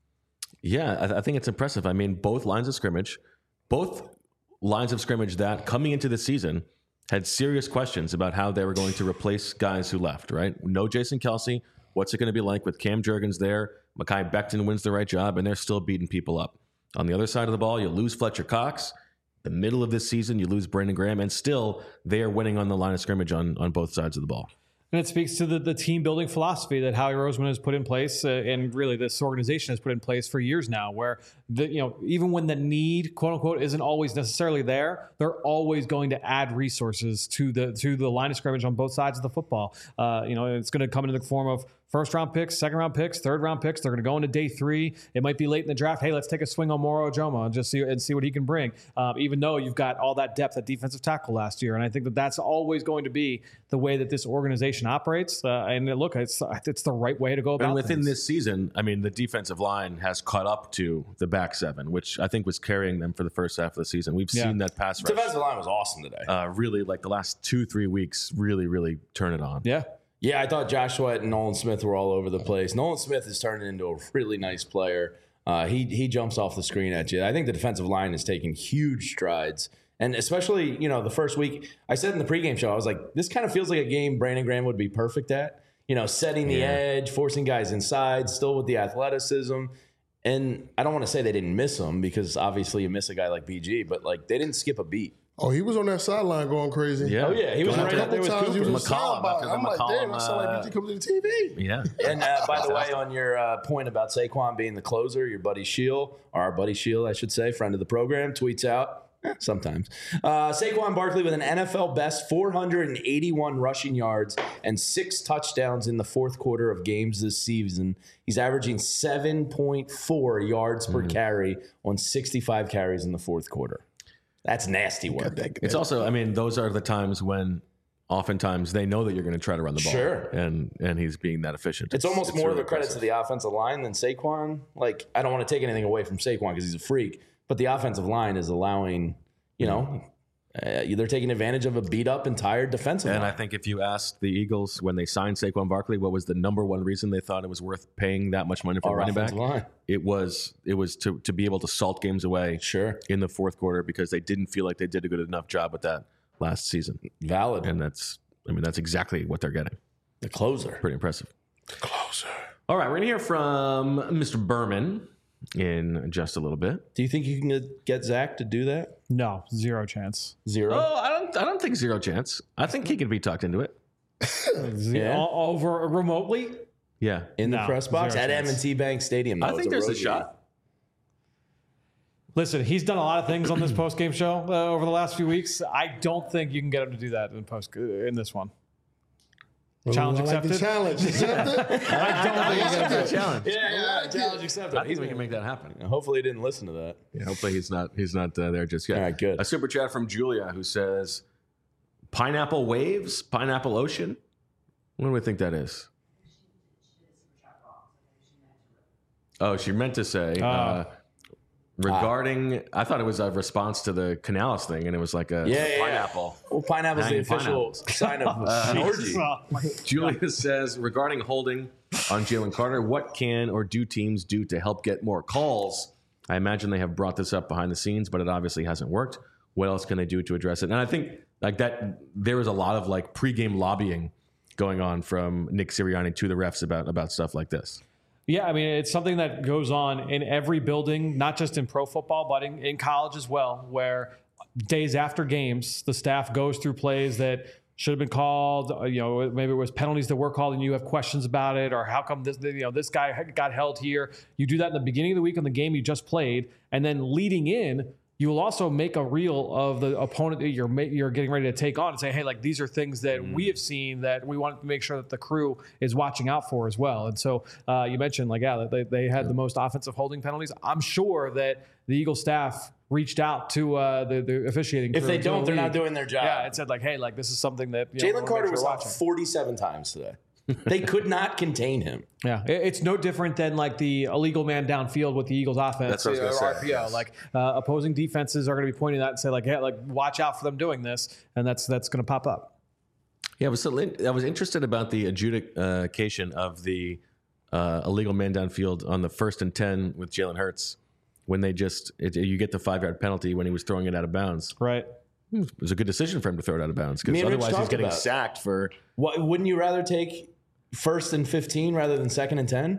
Yeah, I, th- I think it's impressive. I mean, both lines of scrimmage, both lines of scrimmage that coming into the season had serious questions about how they were going to replace guys who left, right? No Jason Kelce. What's it going to be like with Cam Jurgens there? Mekhi Becton wins the right job, and they're still beating people up. On the other side of the ball, you lose Fletcher Cox. The middle of this season, you lose Brandon Graham, and still they are winning on the line of scrimmage on, on both sides of the ball. And it speaks to the, the team building philosophy that Howie Roseman has put in place, uh, and really this organization has put in place for years now, where the, you know, even when the need, quote unquote, isn't always necessarily there, they're always going to add resources to the to the line of scrimmage on both sides of the football. Uh, you know, it's going to come in the form of first round picks, second round picks, third round picks. They're going to go into day three. It might be late in the draft. Hey, let's take a swing on Moro Ojomo and just see and see what he can bring. Um, even though you've got all that depth at defensive tackle last year, and I think that that's always going to be the way that this organization operates. Uh, and look, it's it's the right way to go about. And within things. this season, I mean, the defensive line has caught up to the back seven, which I think was carrying them for the first half of the season. We've yeah. seen that pass rush. Defensive line was awesome today. Uh, really, like the last two, three weeks, really, really turn it on. Yeah. Yeah, I thought Josh Sweat and Nolan Smith were all over the place. Nolan Smith is turning into a really nice player. Uh, he he jumps off the screen at you. I think the defensive line is taking huge strides. And especially, you know, the first week, I said in the pregame show, I was like, this kind of feels like a game Brandon Graham would be perfect at. You know, setting the yeah. edge, forcing guys inside, still with the athleticism. And I don't want to say they didn't miss him because obviously you miss a guy like B G, but like they didn't skip a beat. Oh, he was on that sideline going crazy. Yeah. Oh, yeah. He was right up there with Cooper. He was McCollum. I'm like, damn, I saw like B G come to the T V. Yeah. And uh, by the way, on your uh, point about Saquon being the closer, your buddy Shield, or our buddy Shield, I should say, friend of the program, tweets out, eh, sometimes, uh, Saquon Barkley with an N F L best four hundred eighty-one rushing yards and six touchdowns in the fourth quarter of games this season. He's averaging seven point four yards per mm-hmm. carry on sixty-five carries in the fourth quarter. That's nasty work. It's also, I mean, those are the times when oftentimes they know that you're going to try to run the ball. Sure. And and he's being that efficient. It's, it's almost it's more really of the credit impressive. to the offensive line than Saquon. Like, I don't want to take anything away from Saquon because he's a freak, but the offensive line is allowing, you know, uh, they're taking advantage of a beat-up and tired defensive and line. I think if you asked the Eagles when they signed Saquon Barkley, what was the number one reason they thought it was worth paying that much money for Our a running back? line. It was it was to, to be able to salt games away sure. in the fourth quarter because they didn't feel like they did a good enough job with that last season. Valid. And that's, I mean, that's exactly what they're getting. The closer. Pretty impressive. The closer. All right, we're going to hear from Mister Berman in just a little bit. Do you think you can get Zach to do that? No, zero chance. Zero? Oh, I don't I don't think zero chance. I think he could be talked into it. Yeah. O- over remotely? Yeah. In the No, press box zero at chance. M and T Bank Stadium. I though. think It's there's a road shot. Listen, he's done a lot of things on this post game show uh, over the last few weeks. I don't think you can get him to do that in post uh, in this one. Challenge I like the accepted. challenge accepted. I don't think he's I gonna do like it. the challenge. Yeah, yeah, challenge accepted. I think we can make that happen. Hopefully he didn't listen to that. Yeah, hopefully he's not he's not uh, there just yet. All right, good. A super chat from Julia who says, "Pineapple waves, pineapple ocean." What do we think that is? Oh, she meant to say uh, Uh, regarding. I thought it was a response to the Canales thing, and it was like a Yeah, yeah, pineapple. Well, pineapple's the Hanging official pineapples. sign of an orgy. Julia says regarding holding on Jalen Carter, what can or do teams do to help get more calls? I imagine they have brought this up behind the scenes, but it obviously hasn't worked. What else can they do to address it? And I think like that, there was a lot of like pregame lobbying going on from Nick Sirianni to the refs about about stuff like this. Yeah, I mean, it's something that goes on in every building, not just in pro football, but in, in college as well, where days after games, the staff goes through plays that should have been called. uh, You know, maybe it was penalties that were called and you have questions about it, or how come this, you know, this guy got held here. You do that in the beginning of the week on the game you just played, and then leading in, you will also make a reel of the opponent that you're ma- you're getting ready to take on and say, hey, like these are things that Mm. we have seen that we want to make sure that the crew is watching out for as well. And so uh, you mentioned like, yeah, they, they had the most offensive holding penalties. I'm sure that the Eagles staff reached out to uh, the, the officiating crew. If they to the don't, they're not league. doing their job. Yeah, it said like, hey, like this is something that you know, we Jalen wanna Carter make sure was we're out watching. forty-seven times today. They could not contain him. Yeah, it- it's no different than like the illegal man downfield with the Eagles offense. That's what I was or gonna say, R P O. yes. Like uh, opposing defenses are going to be pointing that and say like, hey, like watch out for them doing this, and that's that's going to pop up. Yeah, I was so I was interested about the adjudication of the uh, illegal man downfield on the first and ten with Jalen Hurts when they just it, you get the five yard penalty when he was throwing it out of bounds. Right. It was a good decision for him to throw it out of bounds Me because and Rich otherwise he's talked getting about it. sacked for. What, wouldn't you rather take first and fifteen rather than second and ten?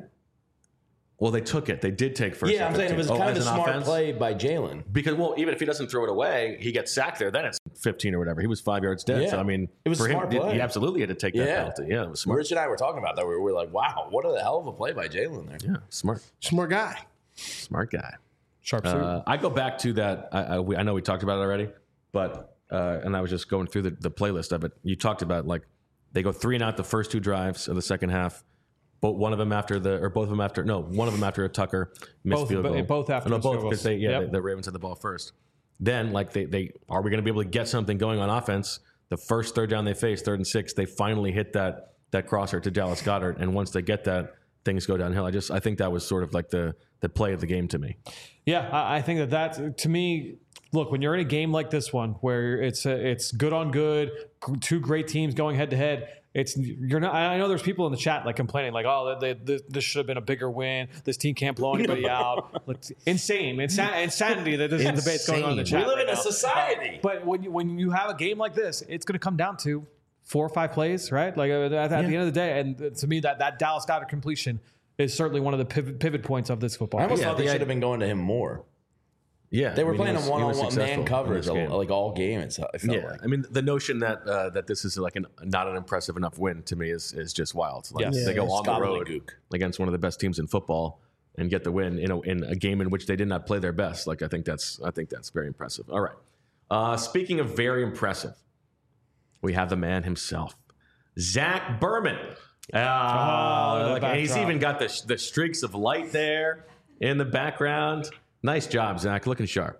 Well, they took it. They did take first. Yeah, and I'm saying it fifteen. was Oh, kind of as a an smart offense? play by Jalen. Because well, even if he doesn't throw it away, he gets sacked there. Then it's fifteen or whatever. He was five yards dead. Yeah. So I mean, It was a for him, smart he- play. he absolutely had to take that Yeah. penalty. Yeah, it was smart. Rich and I were talking about that. We were like, wow, what a hell of a play by Jalen there. Yeah, smart, Smart guy. smart guy. Sharp suit. Uh, I go back to that. I, I, we, I know we talked about it already, but uh, and I was just going through the, the playlist of it. You talked about like they go three and out the first two drives of the second half. But one of them after the, or both of them after, no, one of them after a Tucker missed Both- field but goal. both after no, missed both field because goals. they, yeah, Yep. the, the Ravens had the ball first. Then, like they, they are we going to be able to get something going on offense? The first third down they faced, third and six, they finally hit that that crosser to Dallas Goedert, and once they get that, things go downhill. I just, I think that was sort of like the the play of the game to me. Yeah, I I think that that to me, look, when you're in a game like this one where it's a, it's good on good, two great teams going head to head. It's you're not. I know there's people in the chat like complaining, like, "Oh, they, they, this should have been a bigger win. This team can't blow anybody out." Like, insane, Insa- insanity that this debate's going on in the Insane. chat. We live right in a now. society. But when you, when you have a game like this, it's going to come down to four or five plays, right? Like at, at the end of the day, and to me, that that Dallas Goedert completion is certainly one of the pivot, pivot points of this football. I almost Yeah, thought they the should have been going to him more. Yeah, They were I mean, he playing was- a he was one-on-one successful man in coverage this game. like all game. It's, it felt Yeah, like. I mean the notion that uh, that this is like an, not an impressive enough win to me is is just wild. Like, Yes. they go Yeah, on the road gobbledygook. against one of the best teams in football and get the win in a, in a game in which they did not play their best. Like I think that's I think that's very impressive. All right. Uh, speaking of very impressive, we have the man himself, Zach Berman. Uh, Oh, like, the and he's backdrop. even got the the streaks of light there in the background. Nice job, Zach. Looking sharp.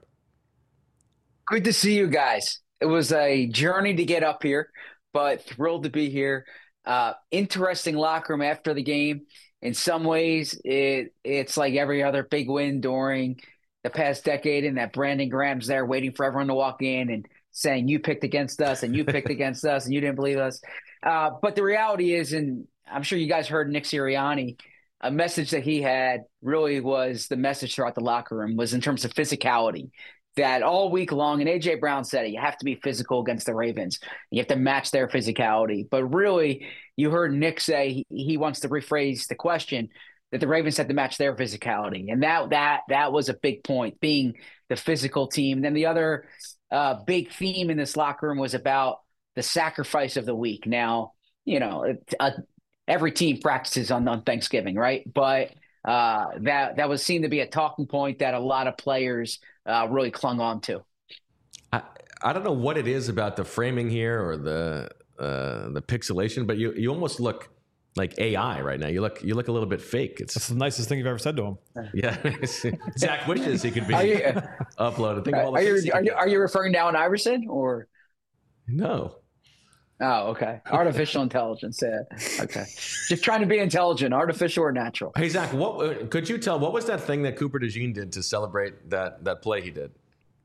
Good to see you guys. It was a journey to get up here, but thrilled to be here. Uh, interesting locker room after the game. In some ways, it it's like every other big win during the past decade, and that Brandon Graham's there waiting for everyone to walk in and saying, you picked against us and you picked against us and you didn't believe us. Uh, but the reality is, and I'm sure you guys heard Nick Sirianni, a message that he had really was the message throughout the locker room was in terms of physicality. that all week long, and A J Brown said it, you have to be physical against the Ravens. You have to match their physicality. But really, you heard Nick say he, he wants to rephrase the question that the Ravens had to match their physicality. And that that that was a big point, being the physical team. And then the other uh, big theme in this locker room was about the sacrifice of the week. Now, you know, uh, every team practices on, on Thanksgiving, right? But uh, that that was seen to be a talking point that a lot of players uh, really clung on to. I, I don't know what it is about the framing here or the uh, the pixelation, but you, you almost look like A I right now. You look you look a little bit fake. It's That's the nicest thing you've ever said to him. Yeah, Zach wishes he could be you, uploaded. Think of all the are you things he are could you do. are you referring to Allen Iverson or No. Oh, okay. Artificial intelligence. Yeah. Okay. Just trying to be intelligent, artificial or natural. Hey Zach, what could you tell? What was that thing that Cooper DeJean did to celebrate that that play he did?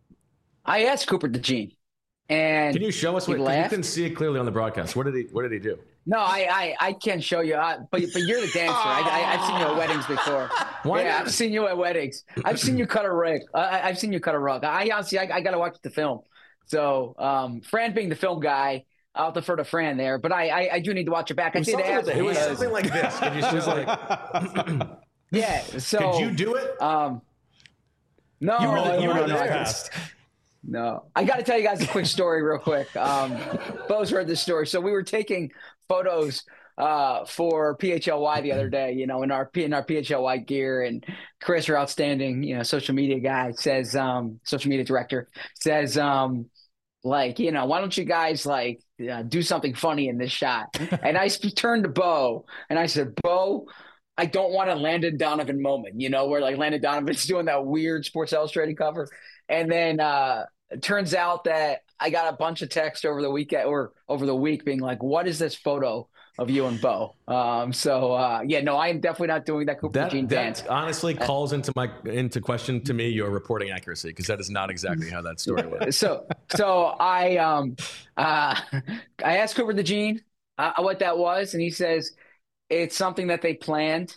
I asked Cooper DeJean, and can you show us he what? 'Cause you laughed. couldn't see it clearly on the broadcast. What did he What did he do? No, I, I, I can show you, I, but but you're the dancer. I, I, I've seen you at weddings before. Why yeah, not? I've seen you at weddings. I've seen you cut a rug. I, I've seen you cut a rug. I honestly, I, I got to watch the film. So, um, Fran being the film guy, I'll defer to Fran there. But I, I, I do need to watch it back. I It was did something ask. with the- it was because- something like this. Could you show like? Yeah. So Could you do it? Um, no, You were the- you no, were no, there. no. No, I got to tell you guys a quick story real quick. Um, Bo's heard this story. So we were taking photos uh, for P H L Y the other day, you know, in our in our P H L Y gear, and Chris, our outstanding, you know, social media guy, says, um, social media director, says, um, like, you know, why don't you guys like uh, do something funny in this shot? And I sp- turned to Bo and I said, Bo, I don't want a Landon Donovan moment, you know, where like Landon Donovan's doing that weird Sports Illustrated cover. And then uh, it turns out that I got a bunch of text over the weekend or over the week being like, what is this photo of you and Bo? Um, so uh, yeah, no, I am definitely not doing that Cooper That, Jean dance. that honestly calls into my into question to me your reporting accuracy, because that is not exactly how that story went. So, so I, um, uh, I asked Cooper DeJean uh, what that was, and he says it's something that they planned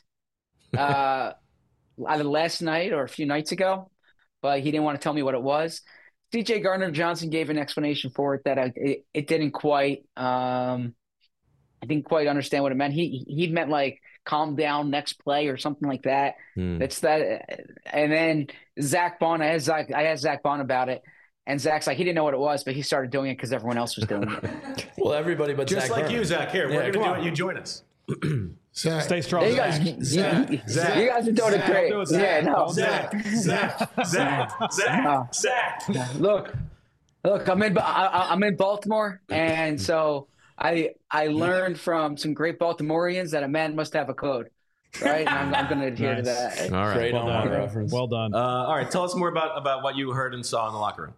uh, either last night or a few nights ago, but he didn't want to tell me what it was. C J Gardner Johnson gave an explanation for it that I, it, it didn't quite, um, I didn't quite understand what it meant. He he meant like calm down, next play or something like that. Hmm. It's that, and then Zach Bond. I asked Zach, I asked Zach Bond about it, and Zach's like he didn't know what it was, but he started doing it because everyone else was doing it. Well, everybody but Just Zach like Burnham. you, Zach. Here, Yeah, we're come gonna on. do it. You join us. Zach. Stay strong. You guys, you, Zach, you, Zach, you guys are doing it Zach, great. don't do it, Zach. Yeah, no. Zach, Zach, Zach, Zach, Uh, Zach. Look, look, I'm in, I, I- I'm in Baltimore, and so I I learned from some great Baltimoreans that a man must have a code, right? And I'm, I'm going to adhere Nice. to that. All right. Great Well on done. reference. Well done. Uh, all right. Tell us more about about what you heard and saw in the locker room.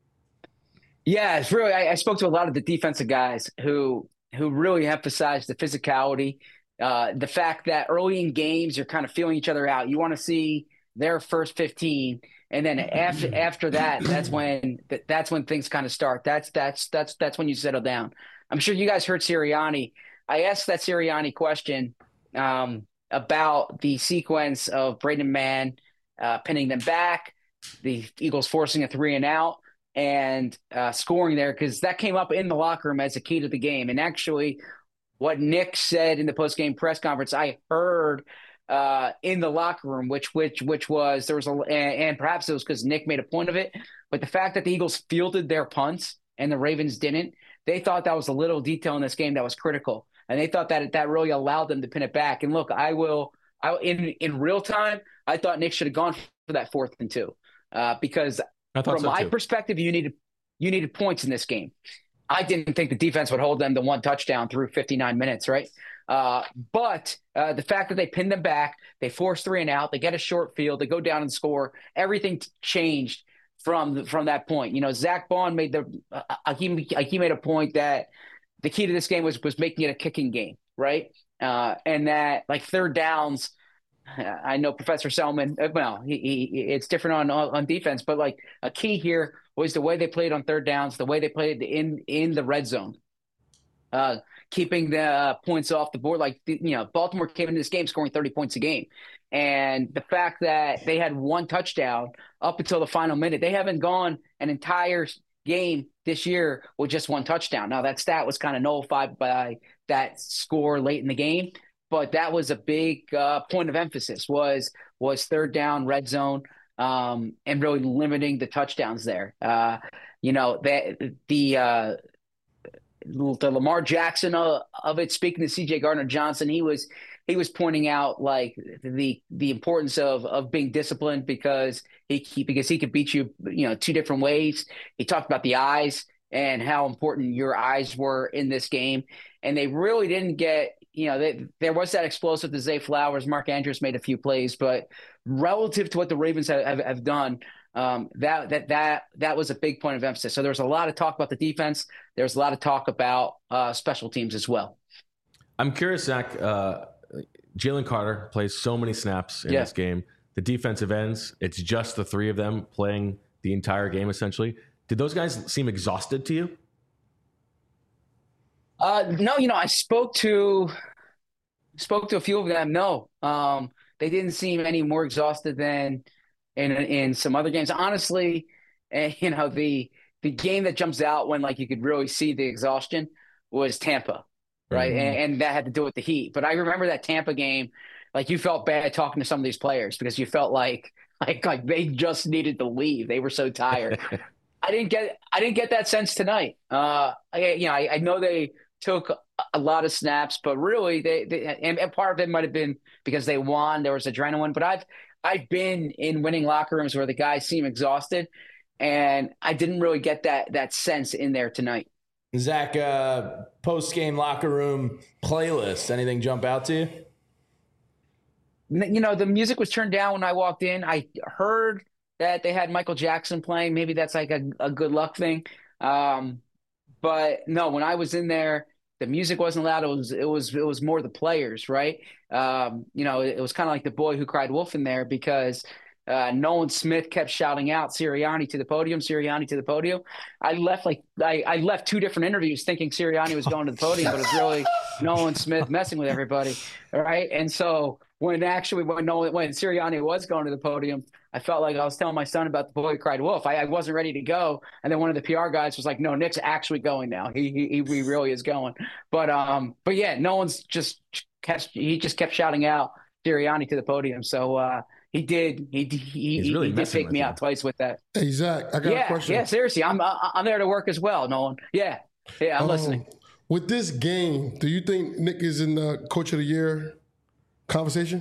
Yeah, it's really. I, I spoke to a lot of the defensive guys who who really emphasized the physicality, uh, the fact that early in games you're kind of feeling each other out. You want to see their first fifteen, and then after after that, that's when that's when things kind of start. That's that's that's that's when you settle down. I'm sure you guys heard Sirianni. I asked that Sirianni question um, about the sequence of Braden Mann uh, pinning them back, the Eagles forcing a three and out, and uh, scoring there, because that came up in the locker room as a key to the game. And actually, what Nick said in the post-game press conference, I heard uh, in the locker room, which which which was there was a and, and perhaps it was because Nick made a point of it, but the fact that the Eagles fielded their punts and the Ravens didn't, they thought that was a little detail in this game that was critical, and they thought that that really allowed them to pin it back. And look, I will, I in in real time, I thought Nick should have gone for that fourth and two uh, because. I thought From so my too. perspective, you needed you needed points in this game. I didn't think the defense would hold them to one touchdown through fifty-nine minutes, right? Uh, but uh, the fact that they pinned them back, they force three and out, they get a short field, they go down and score. Everything t- changed from from that point. You know, Zach Bond made the uh, he he made a point that the key to this game was was making it a kicking game, right? Uh, and that like third downs. I know Professor Selman, well, he, he, it's different on, on defense, but like a key here was the way they played on third downs, the way they played in, in the red zone. uh, keeping the uh, points off the board. Like, you know, Baltimore came into this game scoring thirty points a game. And the fact that they had one touchdown up until the final minute, they haven't gone an entire game this year with just one touchdown. Now, that stat was kind of nullified by that score late in the game, but that was a big uh, point of emphasis was was third down, red zone, um, and really limiting the touchdowns there. Uh, you know, the, the, uh, the Lamar Jackson of, of it, speaking to C J Gardner-Johnson, he was he was pointing out like the the importance of of being disciplined because he, he because he could beat you, you know, two different ways. He talked about the eyes and how important your eyes were in this game, and they really didn't get, you know, they, there was that explosive to Zay Flowers. Mark Andrews made a few plays, but relative to what the Ravens have, have, have done, um, that that that that was a big point of emphasis. So there was a lot of talk about the defense. There's a lot of talk about uh, special teams as well. I'm curious, Zach. Uh, Jalen Carter plays so many snaps in yeah. this game. The defensive ends, it's just the three of them playing the entire game, essentially. Did those guys seem exhausted to you? Uh, no, you know, I spoke to spoke to a few of them. No, um, they didn't seem any more exhausted than in in some other games. Honestly, uh, you know, the the game that jumps out when like you could really see the exhaustion was Tampa. Right. Mm-hmm. And, and that had to do with the heat. But I remember that Tampa game, like you felt bad talking to some of these players because you felt like like like they just needed to leave. They were so tired. I didn't get I didn't get that sense tonight. Uh, I, you know, I, I know they took a lot of snaps, but really they, they and, and part of it might have been because they won. There was adrenaline. But I've I've been in winning locker rooms where the guys seem exhausted, and I didn't really get that that sense in there tonight. Zach, uh, post-game locker room playlist, anything jump out to you? You know, the music was turned down when I walked in. I heard that they had Michael Jackson playing. Maybe that's like a, a good luck thing. Um, but no, when I was in there, the music wasn't loud. It was it was it was more the players, right? Um, you know, it, it was kind of like the boy who cried wolf in there because Uh, Nolan Smith kept shouting out Sirianni to the podium, Sirianni to the podium. I left like I, I left two different interviews thinking Sirianni was going to the podium, but it's really Nolan Smith messing with everybody, right? And so when actually when Nolan when Sirianni was going to the podium, I felt like I was telling my son about the boy who cried wolf. I, I wasn't ready to go, and then one of the P R guys was like, "No, Nick's actually going now. He he he really is going." But um, but yeah, Nolan's just kept he just kept shouting out Sirianni to the podium. So. Uh, He did. He he, really he did take me you. out twice with that. Hey Zach, I got yeah, a question. Yeah, seriously, I'm I'm there to work as well, Nolan. Yeah, yeah, I'm um, listening. With this game, do you think Nick is in the Coach of the Year conversation?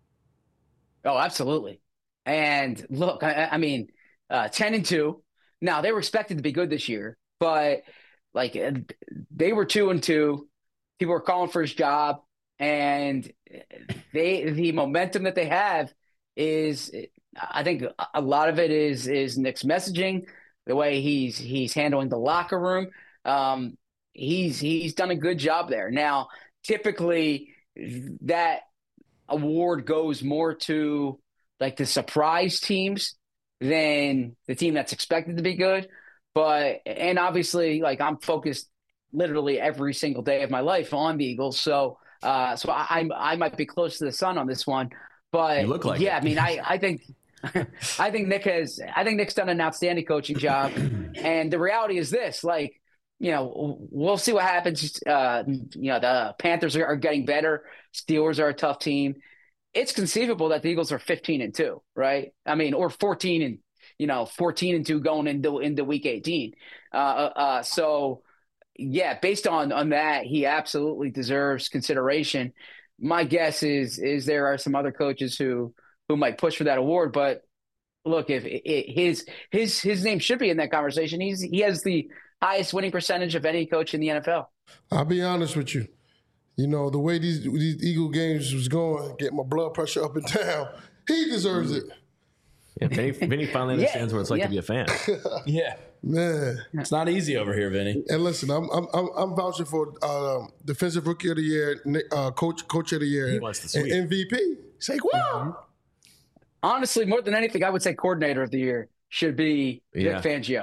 Oh, absolutely. And look, I, I mean, uh, ten and two. Now they were expected to be good this year, but like they were two and two. People were calling for his job, and they the momentum that they have. Is I think a lot of it is is Nick's messaging, the way he's he's handling the locker room. Um, he's he's done a good job there. Now, typically, that award goes more to like the surprise teams than the team that's expected to be good. But and obviously, like I'm focused literally every single day of my life on the Eagles, so uh, so I I might be close to the sun on this one. But you look like yeah, it. I mean, I, I think, I think Nick has, I think Nick's done an outstanding coaching job. And the reality is this, like, you know, we'll see what happens. Uh, you know, the Panthers are, are getting better. Steelers are a tough team. It's conceivable that the Eagles are fifteen and two, right? I mean, or fourteen and, you know, fourteen and two going into, into week eighteen. Uh, uh, so yeah, based on, on that, he absolutely deserves consideration. My guess is is there are some other coaches who who might push for that award, but look, if it, it, his his his name should be in that conversation. He's he has the highest winning percentage of any coach in the N F L. I'll be honest with you. You know, the way these these Eagle games was going, get my blood pressure up and down. He deserves it. Yeah, Vinny, Vinny finally understands yeah, what it's like yeah. to be a fan. Yeah. Man, it's not easy over here, Vinny. And listen, I'm I'm I'm, I'm vouching for uh, defensive rookie of the year, uh, coach coach of the year, he wants the and M V P. Say wow. Honestly, more than anything, I would say coordinator of the year should be yeah. Vic Fangio.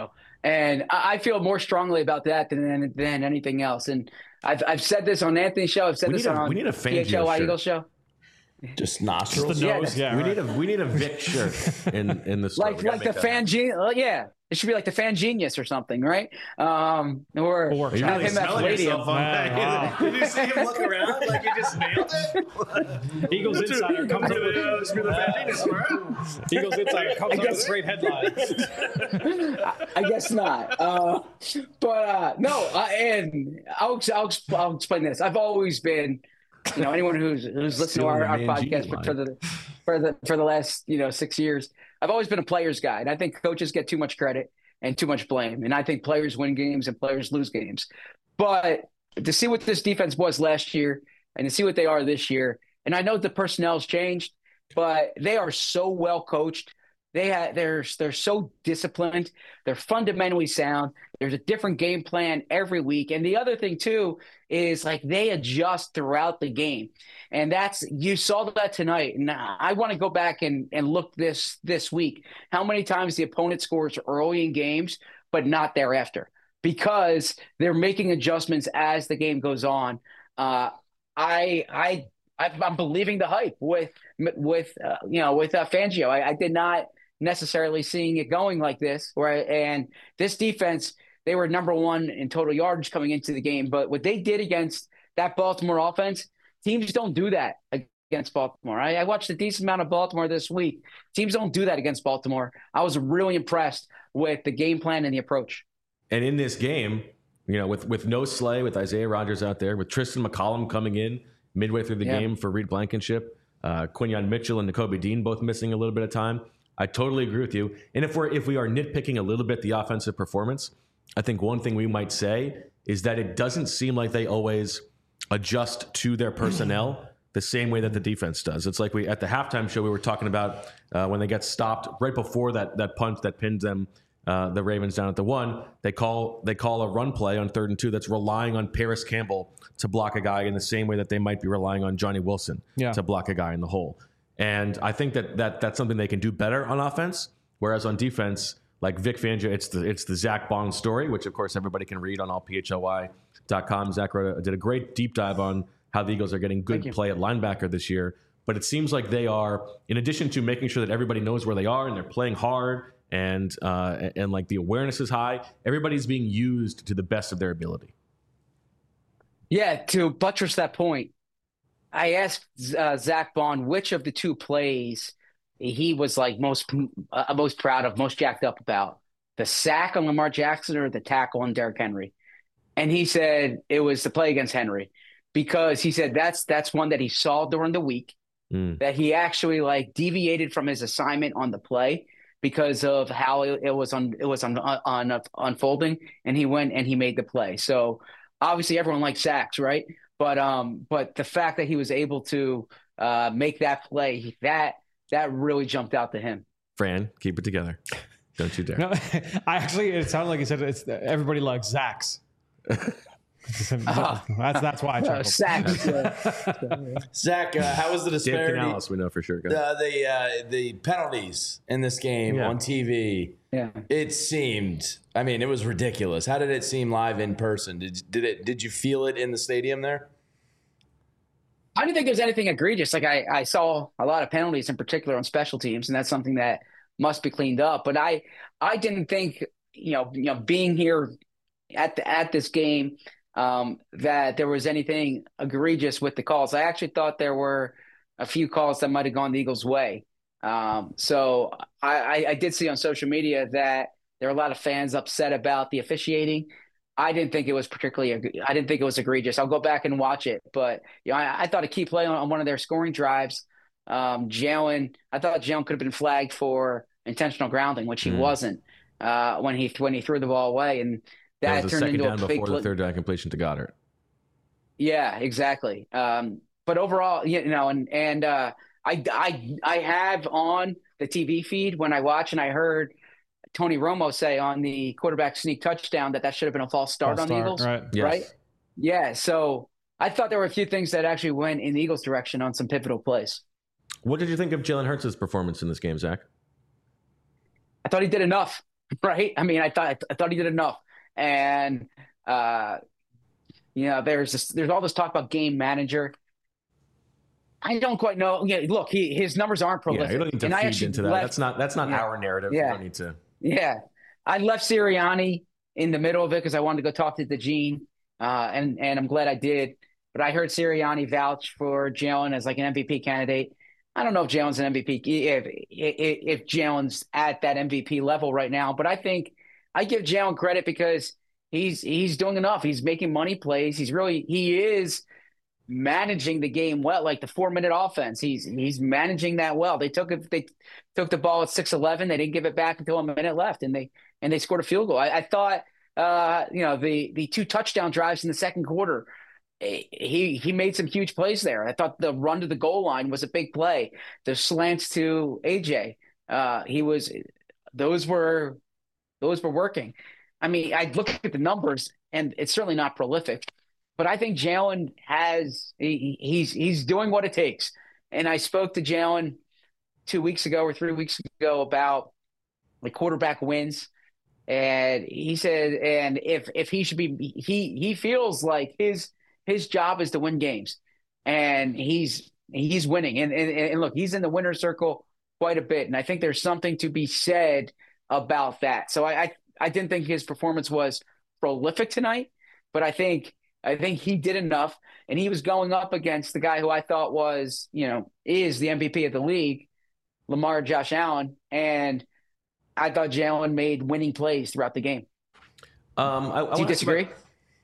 And I I feel more strongly about that than than anything else. And I've I've said this on Anthony's show. I've said We this need a- on we need a P Fangio H L Y shirt. Eagles show. Just nostrils. the Yeah, nose. Yeah, we right. need a we need a Vic shirt in in the store. Like We gotta like the make that fan happen. genius. Yeah, it should be like the fan genius or something, right? Um, or Or- Are you have really him at smelling Palladium. yourself on Man, that? wow. Did you see him look around like he just nailed it? Eagles Insider comes up with Eagles Insider comes up with great headlines. I guess not. Uh, but uh, no, uh, and I'll, I'll I'll explain this. I've always been, you know, anyone who's who's listened to our, our Stealing the podcast Mangini for, for the for the for the last you know six years, I've always been a player's guy, and I think coaches get too much credit and too much blame, and I think players win games and players lose games. But to see what this defense was last year and to see what they are this year, and I know the personnel's changed, but they are so well coached. They have, they're they're so disciplined. They're fundamentally sound. There's a different game plan every week. And the other thing too is like they adjust throughout the game, and that's you saw that tonight. And I want to go back and and look this this week. How many times the opponent scores early in games, but not thereafter, because they're making adjustments as the game goes on. Uh, I I. I'm believing the hype with with uh, you know with uh, Fangio. I, I did not necessarily seeing it going like this. Right, and this defense, they were number one in total yardage coming into the game. But what they did against that Baltimore offense, teams don't do that against Baltimore. I, I watched a decent amount of Baltimore this week. Teams don't do that against Baltimore. I was really impressed with the game plan and the approach. And in this game, you know, with with no Slay, with Isaiah Rodgers out there, with Tristan McCollum coming in midway through the Yeah. game for Reed Blankenship, uh, Quinyon Mitchell and Nakobe Dean both missing a little bit of time. I totally agree with you. And if we're if we are nitpicking a little bit the offensive performance, I think one thing we might say is that it doesn't seem like they always adjust to their personnel the same way that the defense does. It's like we at the halftime show we were talking about uh, when they get stopped right before that that punt that pinned them. Uh, the Ravens down at the one, they call they call a run play on third and two that's relying on Paris Campbell to block a guy in the same way that they might be relying on Johnny Wilson Yeah. to block a guy in the hole. And I think that, that that's something they can do better on offense. Whereas on defense, like Vic Fangio, it's the it's the Zach Bond story, which of course everybody can read on all P H L Y dot com. Zach wrote a, did a great deep dive on how the Eagles are getting good play at linebacker this year. But it seems like they are, in addition to making sure that everybody knows where they are and they're playing hard and uh, and, and like the awareness is high, everybody's being used to the best of their ability. Yeah, to buttress that point, I asked uh, Zach Bond which of the two plays he was like most uh, most proud of, most jacked up about, the sack on Lamar Jackson or the tackle on Derrick Henry. And he said it was the play against Henry, because he said that's that's one that he saw during the week, Mm. that he actually like deviated from his assignment on the play because of how it, it was on it was on, on, on unfolding, and he went and he made the play. So obviously everyone likes sacks, right? But um, but the fact that he was able to uh, make that play, that that really jumped out to him. Fran, keep it together. Don't you dare. No, I actually, it sounded like he said it's everybody likes Zach's. that's that's why I Uh, chuckled. sacks. Zach, uh, how was the Dan disparity? Canales, we know for sure. Go ahead. The the, uh, the penalties in this game Yeah. on T V. Yeah. It seemed. I mean, it was ridiculous. How did it seem live in person? Did did it? Did you feel it in the stadium there? I didn't think there was anything egregious. Like I, I saw a lot of penalties in particular on special teams, and that's something that must be cleaned up. But I, I didn't think, you know, you know, being here at the at this game, um, that there was anything egregious with the calls. I actually thought there were a few calls that might have gone the Eagles' way. Um, so I, I, I did see on social media that there are a lot of fans upset about the officiating. I didn't think it was particularly, I didn't think it was egregious. I'll go back and watch it, but you know, I, I thought a key play on, on one of their scoring drives, um, Jalen, I thought Jalen could have been flagged for intentional grounding, which he Mm. wasn't, uh, when he, when he threw the ball away, and that That was a turned second into down a big before play. the third down completion to Goddard. Yeah, exactly. Um, but overall, you know, and, and, uh, I, I, I have on the T V feed when I watch, and I heard Tony Romo say on the quarterback sneak touchdown that that should have been a false start False on the start, Eagles. right. Yes. Right? Yeah. So I thought there were a few things that actually went in the Eagles' direction on some pivotal plays. What did you think of Jalen Hurts' performance in this game, Zach? I thought he did enough. right? I mean, I thought I thought he did enough, and uh, you know, there's this, there's all this talk about game manager. I don't quite know. Yeah, look, he his numbers aren't prolific. Yeah, you don't need to and I feed actually into that. left, that's not that's not yeah, our narrative. Yeah, You don't need to. Yeah, I left Sirianni in the middle of it because I wanted to go talk to DeJean, uh, and and I'm glad I did. But I heard Sirianni vouch for Jalen as like an M V P candidate. I don't know if Jalen's an M V P, if if, if Jalen's at that M V P level right now. But I think I give Jalen credit because he's he's doing enough. He's making money plays. He's really he is managing the game well, like the four minute offense. He's he's managing that well. They took it. They took the ball at six eleven. They didn't give it back until a minute left, and they and they scored a field goal. I, I thought, uh, you know, the the two touchdown drives in the second quarter. He he made some huge plays there. I thought the run to the goal line was a big play. The slants to A J, uh, he was those were those were working. I mean, I look at the numbers, and it's certainly not prolific, but I think Jalen has he, he's he's doing what it takes. And I spoke to Jalen two weeks ago or three weeks ago about the quarterback wins. And he said, and if if he should be, he he feels like his his job is to win games, and he's he's winning. And and, and look, he's in the winner's circle quite a bit, and I think there's something to be said about that. So I I, I didn't think his performance was prolific tonight, but I think I think he did enough, and he was going up against the guy who I thought was, you know, is the M V P of the league, Lamar Josh Allen, and I thought Jalen made winning plays throughout the game. Um, I, I Do you disagree? About,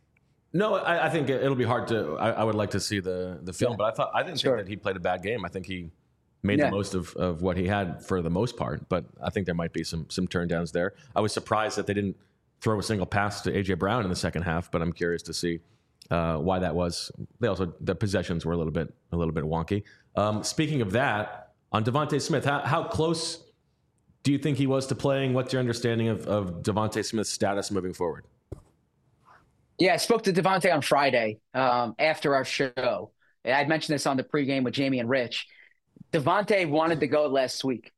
no, I, I think it'll be hard to. I, I would like to see the the film, yeah. but I thought I didn't sure. think that he played a bad game. I think he made yeah. the most of, of what he had for the most part. But I think there might be some some turndowns there. I was surprised that they didn't throw a single pass to A J Brown in the second half, but I'm curious to see uh, why that was. They also the possessions were a little bit a little bit wonky. Um, speaking of that, on Devontae Smith, how, how close do you think he was to playing? What's your understanding of, of Devontae Smith's status moving forward? Yeah, I spoke to Devontae on Friday um, after our show. I mentioned this on the pregame with Jamie and Rich. Devontae wanted to go last week,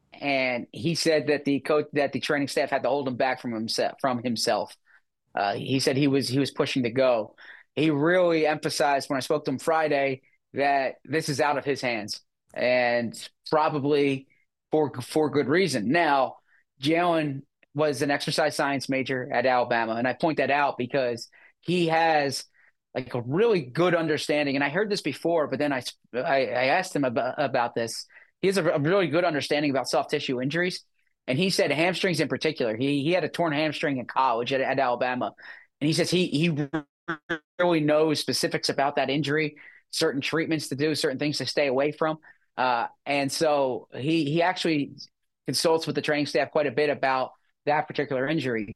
and he said that the coach, that the training staff had to hold him back from himself. From himself, uh, he said he was he was pushing to go. He really emphasized when I spoke to him Friday that this is out of his hands, and probably for for good reason. Now, Jalen was an exercise science major at Alabama, and I point that out because he has like a really good understanding. And I heard this before, but then I I, I asked him about, about this. He has a, a really good understanding about soft tissue injuries, and he said hamstrings in particular. He he had a torn hamstring in college at, at Alabama, and he says he he really knows specifics about that injury, certain treatments to do, certain things to stay away from. Uh, and so he he actually consults with the training staff quite a bit about that particular injury.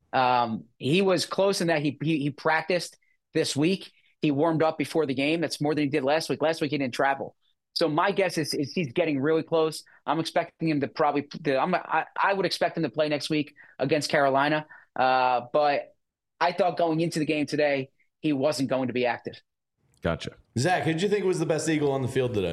Um, he was close in that he, he he practiced this week. He warmed up before the game. That's more than he did last week. Last week he didn't travel. So my guess is, is he's getting really close. I'm expecting him to probably – I'm I, I would expect him to play next week against Carolina. Uh, but I thought going into the game today he wasn't going to be active. Gotcha. Zach, who did you think was the best Eagle on the field today?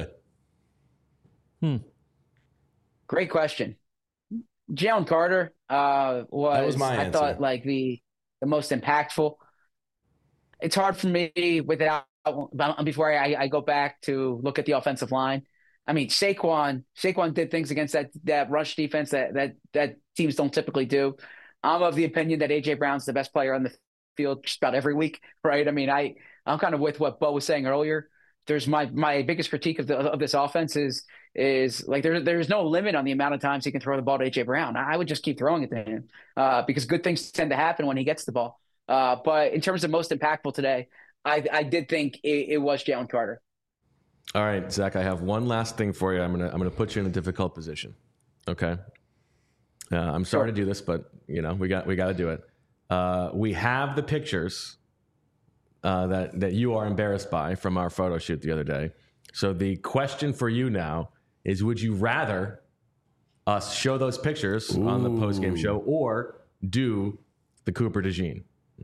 Hmm. Great question. Jalen Carter uh, was, that was my I answer. thought, like the the most impactful. It's hard for me without before I, I go back to look at the offensive line. I mean, Saquon Saquon did things against that that rush defense that that that teams don't typically do. I'm of the opinion that A J Brown's the best player on the field just about every week, right? I mean, I I'm kind of with what Bo was saying earlier. There's my my biggest critique of the of this offense is is like there there's no limit on the amount of times he can throw the ball to A J Brown. I would just keep throwing it to him uh, because good things tend to happen when he gets the ball. Uh, but in terms of most impactful today, I I did think it, it was Jalen Carter. All right, Zach, I have one last thing for you. I'm gonna I'm gonna put you in a difficult position. Okay. Uh, I'm sorry sure. to do this, but you know we got we got to do it. Uh, we have the pictures uh, that that you are embarrassed by from our photo shoot the other day. So the question for you now is: would you rather us show those pictures Ooh. on the post game show or do the Cooper DeJean?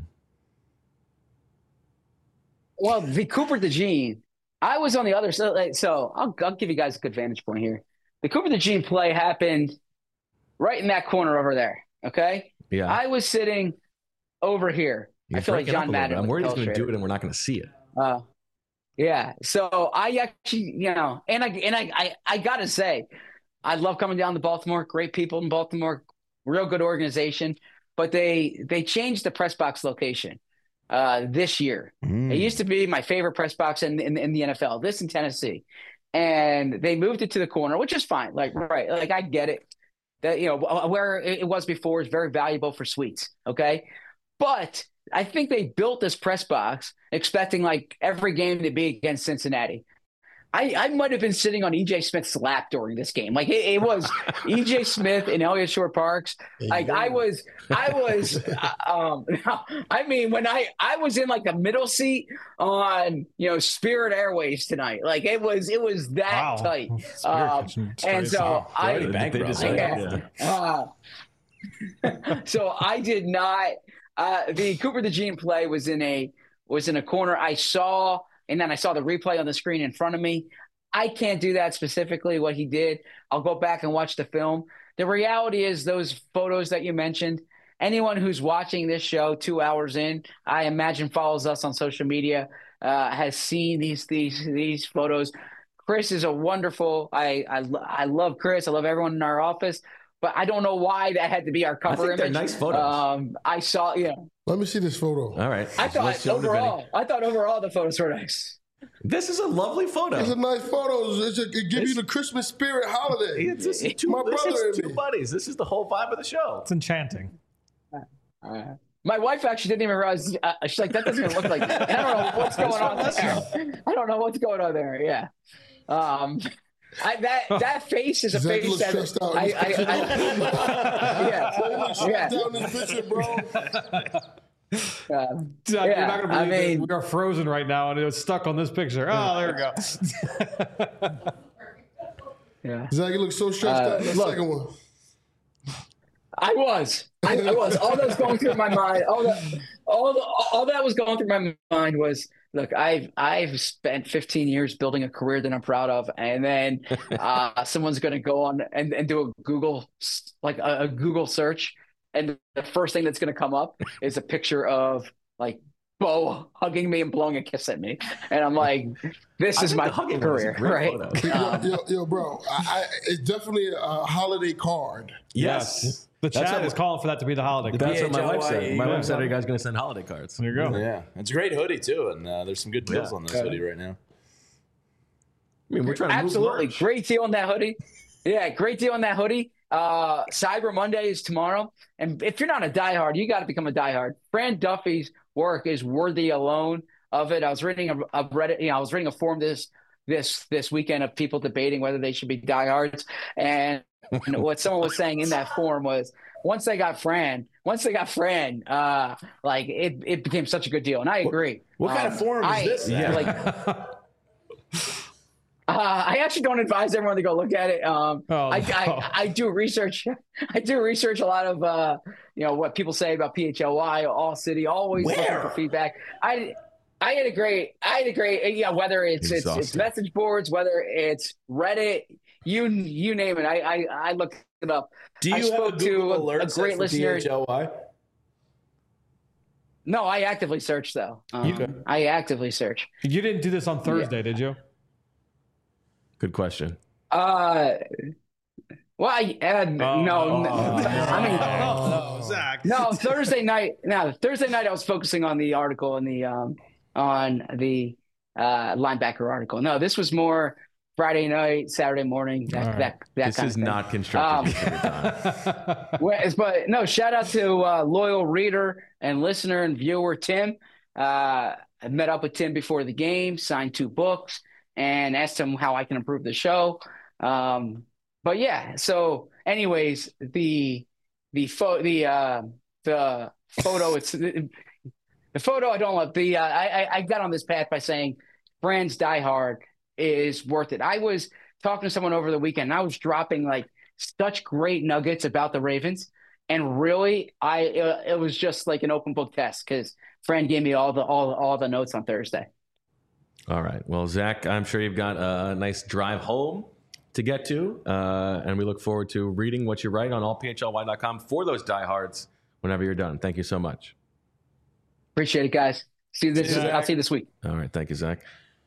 Well, the Cooper DeJean, I was on the other side. So I'll, I'll give you guys a good vantage point here. The Cooper DeJean play happened right in that corner over there. Okay. Yeah. I was sitting over here. You're I feel like breaking up John a little Madden. bit. I'm with worried he's going to Illustrator. do it and we're not going to see it. Uh, yeah. So I actually, you know, and I and I, I I gotta say, I love coming down to Baltimore. Great people in Baltimore, real good organization. But they they changed the press box location uh, this year. Mm. It used to be my favorite press box in, in in the N F L. This in Tennessee, and they moved it to the corner, which is fine. Like right, like I get it. That you know where it was before is very valuable for suites. Okay, but I think they built this press box expecting like every game to be against Cincinnati. I, I might have been sitting on E J Smith's lap during this game. Like it, it was E J Smith and Elliott Shore Parks. Like I was, I was, um, I mean, when I, I was in like the middle seat on, you know, Spirit Airways tonight. Like it was, it was that Wow. tight. Spirit Um, Kitchen and so Wow. I, They bankrupt. decided, yeah. yeah. Uh, so I did not. Uh, the Cooper DeJean play was in a was in a corner. I saw, and then I saw the replay on the screen in front of me. I can't do that specifically. What he did, I'll go back and watch the film. The reality is, those photos that you mentioned. Anyone who's watching this show two hours in, I imagine follows us on social media, uh, has seen these these these photos. Chris is a wonderful. I I I love Chris. I love everyone in our office. But I don't know why that had to be our cover I think image. they're nice photos. Um, I saw, yeah. Let me see this photo. All right. I Let's thought show the overall, video. I thought overall the photos were nice. This is a lovely photo. It's a nice photo. It's a, it gives you the Christmas spirit holiday. It's this is two, My this brother is and two me. buddies. This is the whole vibe of the show. It's enchanting. Uh, my wife actually didn't even realize. Uh, she's like, that doesn't even look like. I don't know what's going on there. I don't know what's going on there. Yeah. Um, I, that that face is a Zach face looks that stressed out. I, He's I, stressed I, out. He looks yeah, stressed out in this picture, bro. yeah. Uh, Doug, yeah, you're not going to I believe mean- it. We are frozen right now, and it's stuck on this picture. Oh, there we go. yeah. Zach, you look so stressed Uh, out in that look. second one. I was. I, I was. All that was going through my mind. All that, all, the, all that was going through my mind was, look, I've I've spent fifteen years building a career that I'm proud of, and then uh, someone's going to go on and, and do a Google like a, a Google search, and the first thing that's going to come up is a picture of like Bo hugging me and blowing a kiss at me, and I'm like, this I is think my the hugging one is a career, great right? photo. Yo, yo, yo, bro, I, I, it's definitely a holiday card. Yes. The That's chat what- is calling for that to be the holiday. That's what my wife said. P H L Y E. My wife said, "Are you guys going to send holiday cards?" There you go. Yeah, it's a great hoodie too, and uh, there's some good deals Yeah. on this hoodie right now. I mean, we're trying to Absolutely. move merch. Great deal on that hoodie. Yeah, great deal on that hoodie. Uh, Cyber Monday is tomorrow. And if you're not a diehard, you got to become a diehard. Fran Duffy's work is worthy alone of it. I was reading a, a Reddit, you know, I was reading a forum this this this weekend of people debating whether they should be diehards. And what someone was saying in that forum was, once they got Fran, once they got Fran, uh, like it, it became such a good deal. And I agree. What kind Um, of forum I- is this? Yeah. Like, Uh, I actually don't advise everyone to go look at it. Um, Oh, I, no. I, I do research. I do research a lot of uh, you know what people say about P H L Y, All City. Always looking Where? for feedback. I I had a great. I had a great. Yeah, whether it's it's, it's Exhausting. message boards, whether it's Reddit, you you name it. I I, I looked it up. Do you I have a spoke to Google a- alert a set great for listener. P H L Y? No, I actively search though. Um, You- I actively search. You didn't do this on Thursday, did you? Good question. Uh, well, I, uh, no, no, Oh, I mean. no, Zach. No, Thursday night. No, Thursday night. I was focusing on the article and the um on the uh linebacker article. No, this was more Friday night, Saturday morning. That All right. that that This kind is of thing. not constructive use every time. Whereas- but no, shout out to uh, loyal reader and listener and viewer Tim. Uh, I met up with Tim before the game, signed two books, and asked him how I can improve the show. Um, but yeah, so anyways, the the photo the uh, the photo it's the, the photo I don't love. The uh, I I- I got on this path by saying Brands Die Hard is worth it. I was talking to someone over the weekend, and I was dropping like such great nuggets about the Ravens, and really, I it, it was just like an open book test because Fran gave me all the all all the notes on Thursday. All right. Well, Zach, I'm sure you've got a nice drive home to get to, uh, and we look forward to reading what you write on all p h l y dot com for those diehards whenever you're done. Thank you so much. Appreciate it, guys. See you this. See you, I'll see you this week. All right, thank you, Zach.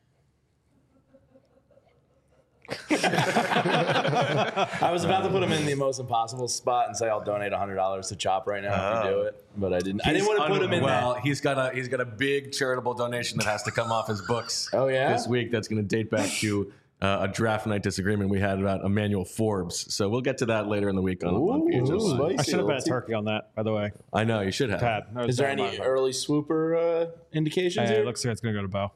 I was about to put him in the most impossible spot and say I'll donate one hundred dollars to Chop right now if you do it, but I didn't. I didn't want to put him in Well, that. he's got a he's got a big charitable donation that has to come off his books. Oh, yeah? this week. That's going to date back to uh, a draft night disagreement we had about Emmanuel Forbes. So we'll get to that later in the week on, on P H L Y. I should have bet a turkey on that, by the way. I know you should have. Pat, Is there any early swooper uh, indications Hey, here? it looks like it's going to go to Bo.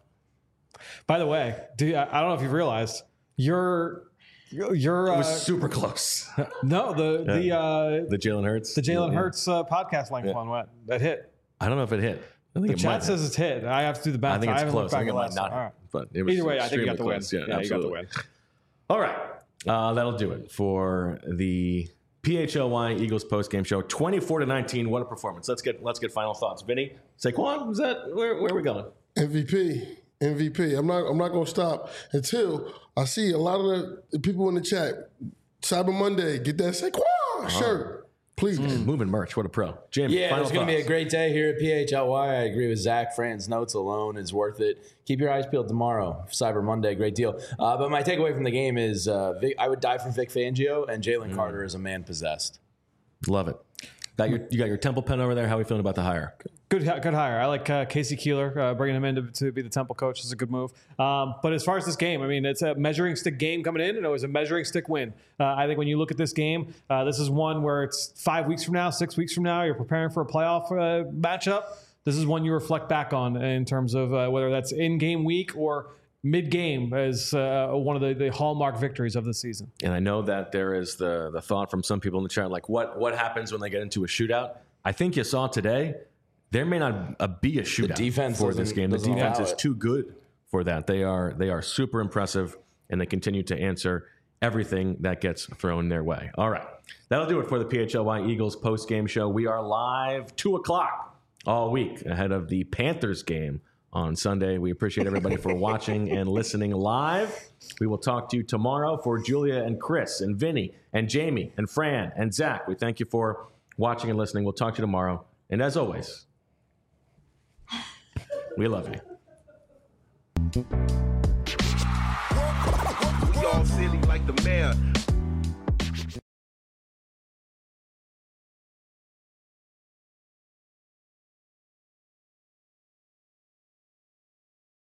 By the way, do you, I I don't know if you've realized you're you're It uh, was super close. no the Yeah. the uh, The Jalen Hurts. the Jalen Yeah. Hurts uh, podcast length Yeah. one what that hit. I don't know if it hit. I think The it chat might says have. it's hit. I have to do the math. I think it's haven't looked close. I back think it at might last not time. All have. right. But it was Either way, I think you got the win. extremely close. Yeah, Yeah, you got the absolutely. win. All right. Uh, that'll do it for the P H L Y Eagles post-game show. twenty-four to nineteen. What a performance. Let's get let's get final thoughts. Vinny, Saquon, was that where, where are we going? M V P. M V P. I'm not I'm not gonna stop until I see a lot of the, the people in the chat. Cyber Monday, get that Saquon shirt. Please. Mm, moving merch. What a pro. Jamie, Yeah, final it's going to be a thoughts. great day here at P H L Y. I agree with Zach. Fran's notes alone is worth it. Keep your eyes peeled tomorrow. Cyber Monday, great deal. Uh, but my takeaway from the game is uh, Vic, I would die for Vic Fangio, and Jalen Mm. Carter is a man possessed. Love it. Got your, you got your Temple pen over there. How are we feeling about the hire? Good, good hire. I like uh, Casey Keeler. Uh, bringing him in to, to be the Temple coach is a good move. Um, but as far as this game, I mean, it's a measuring stick game coming in, and it was a measuring stick win. Uh, I think when you look at this game, uh, this is one where it's five weeks from now, six weeks from now, you're preparing for a playoff uh, matchup. This is one you reflect back on in terms of uh, whether that's in game week or mid-game as uh, one of the, the hallmark victories of the season. And I know that there is the the thought from some people in the chat, like what what happens when they get into a shootout? I think you saw today, there may not uh, be a shootout defense for this doesn't- game. The doesn't defense allow is it. too good for that. They are they are super impressive, and they continue to answer everything that gets thrown their way. All right, that'll do it for the P H L Y Eagles post game show. We are live two o'clock all week ahead of the Panthers game on Sunday. We appreciate everybody for watching and listening live. We will talk to you tomorrow. For Julia and Chris and Vinny and Jamie and Fran and Zach, we thank you for watching and listening. We'll talk to you tomorrow. And as always, we love you. We all silly like the mayor.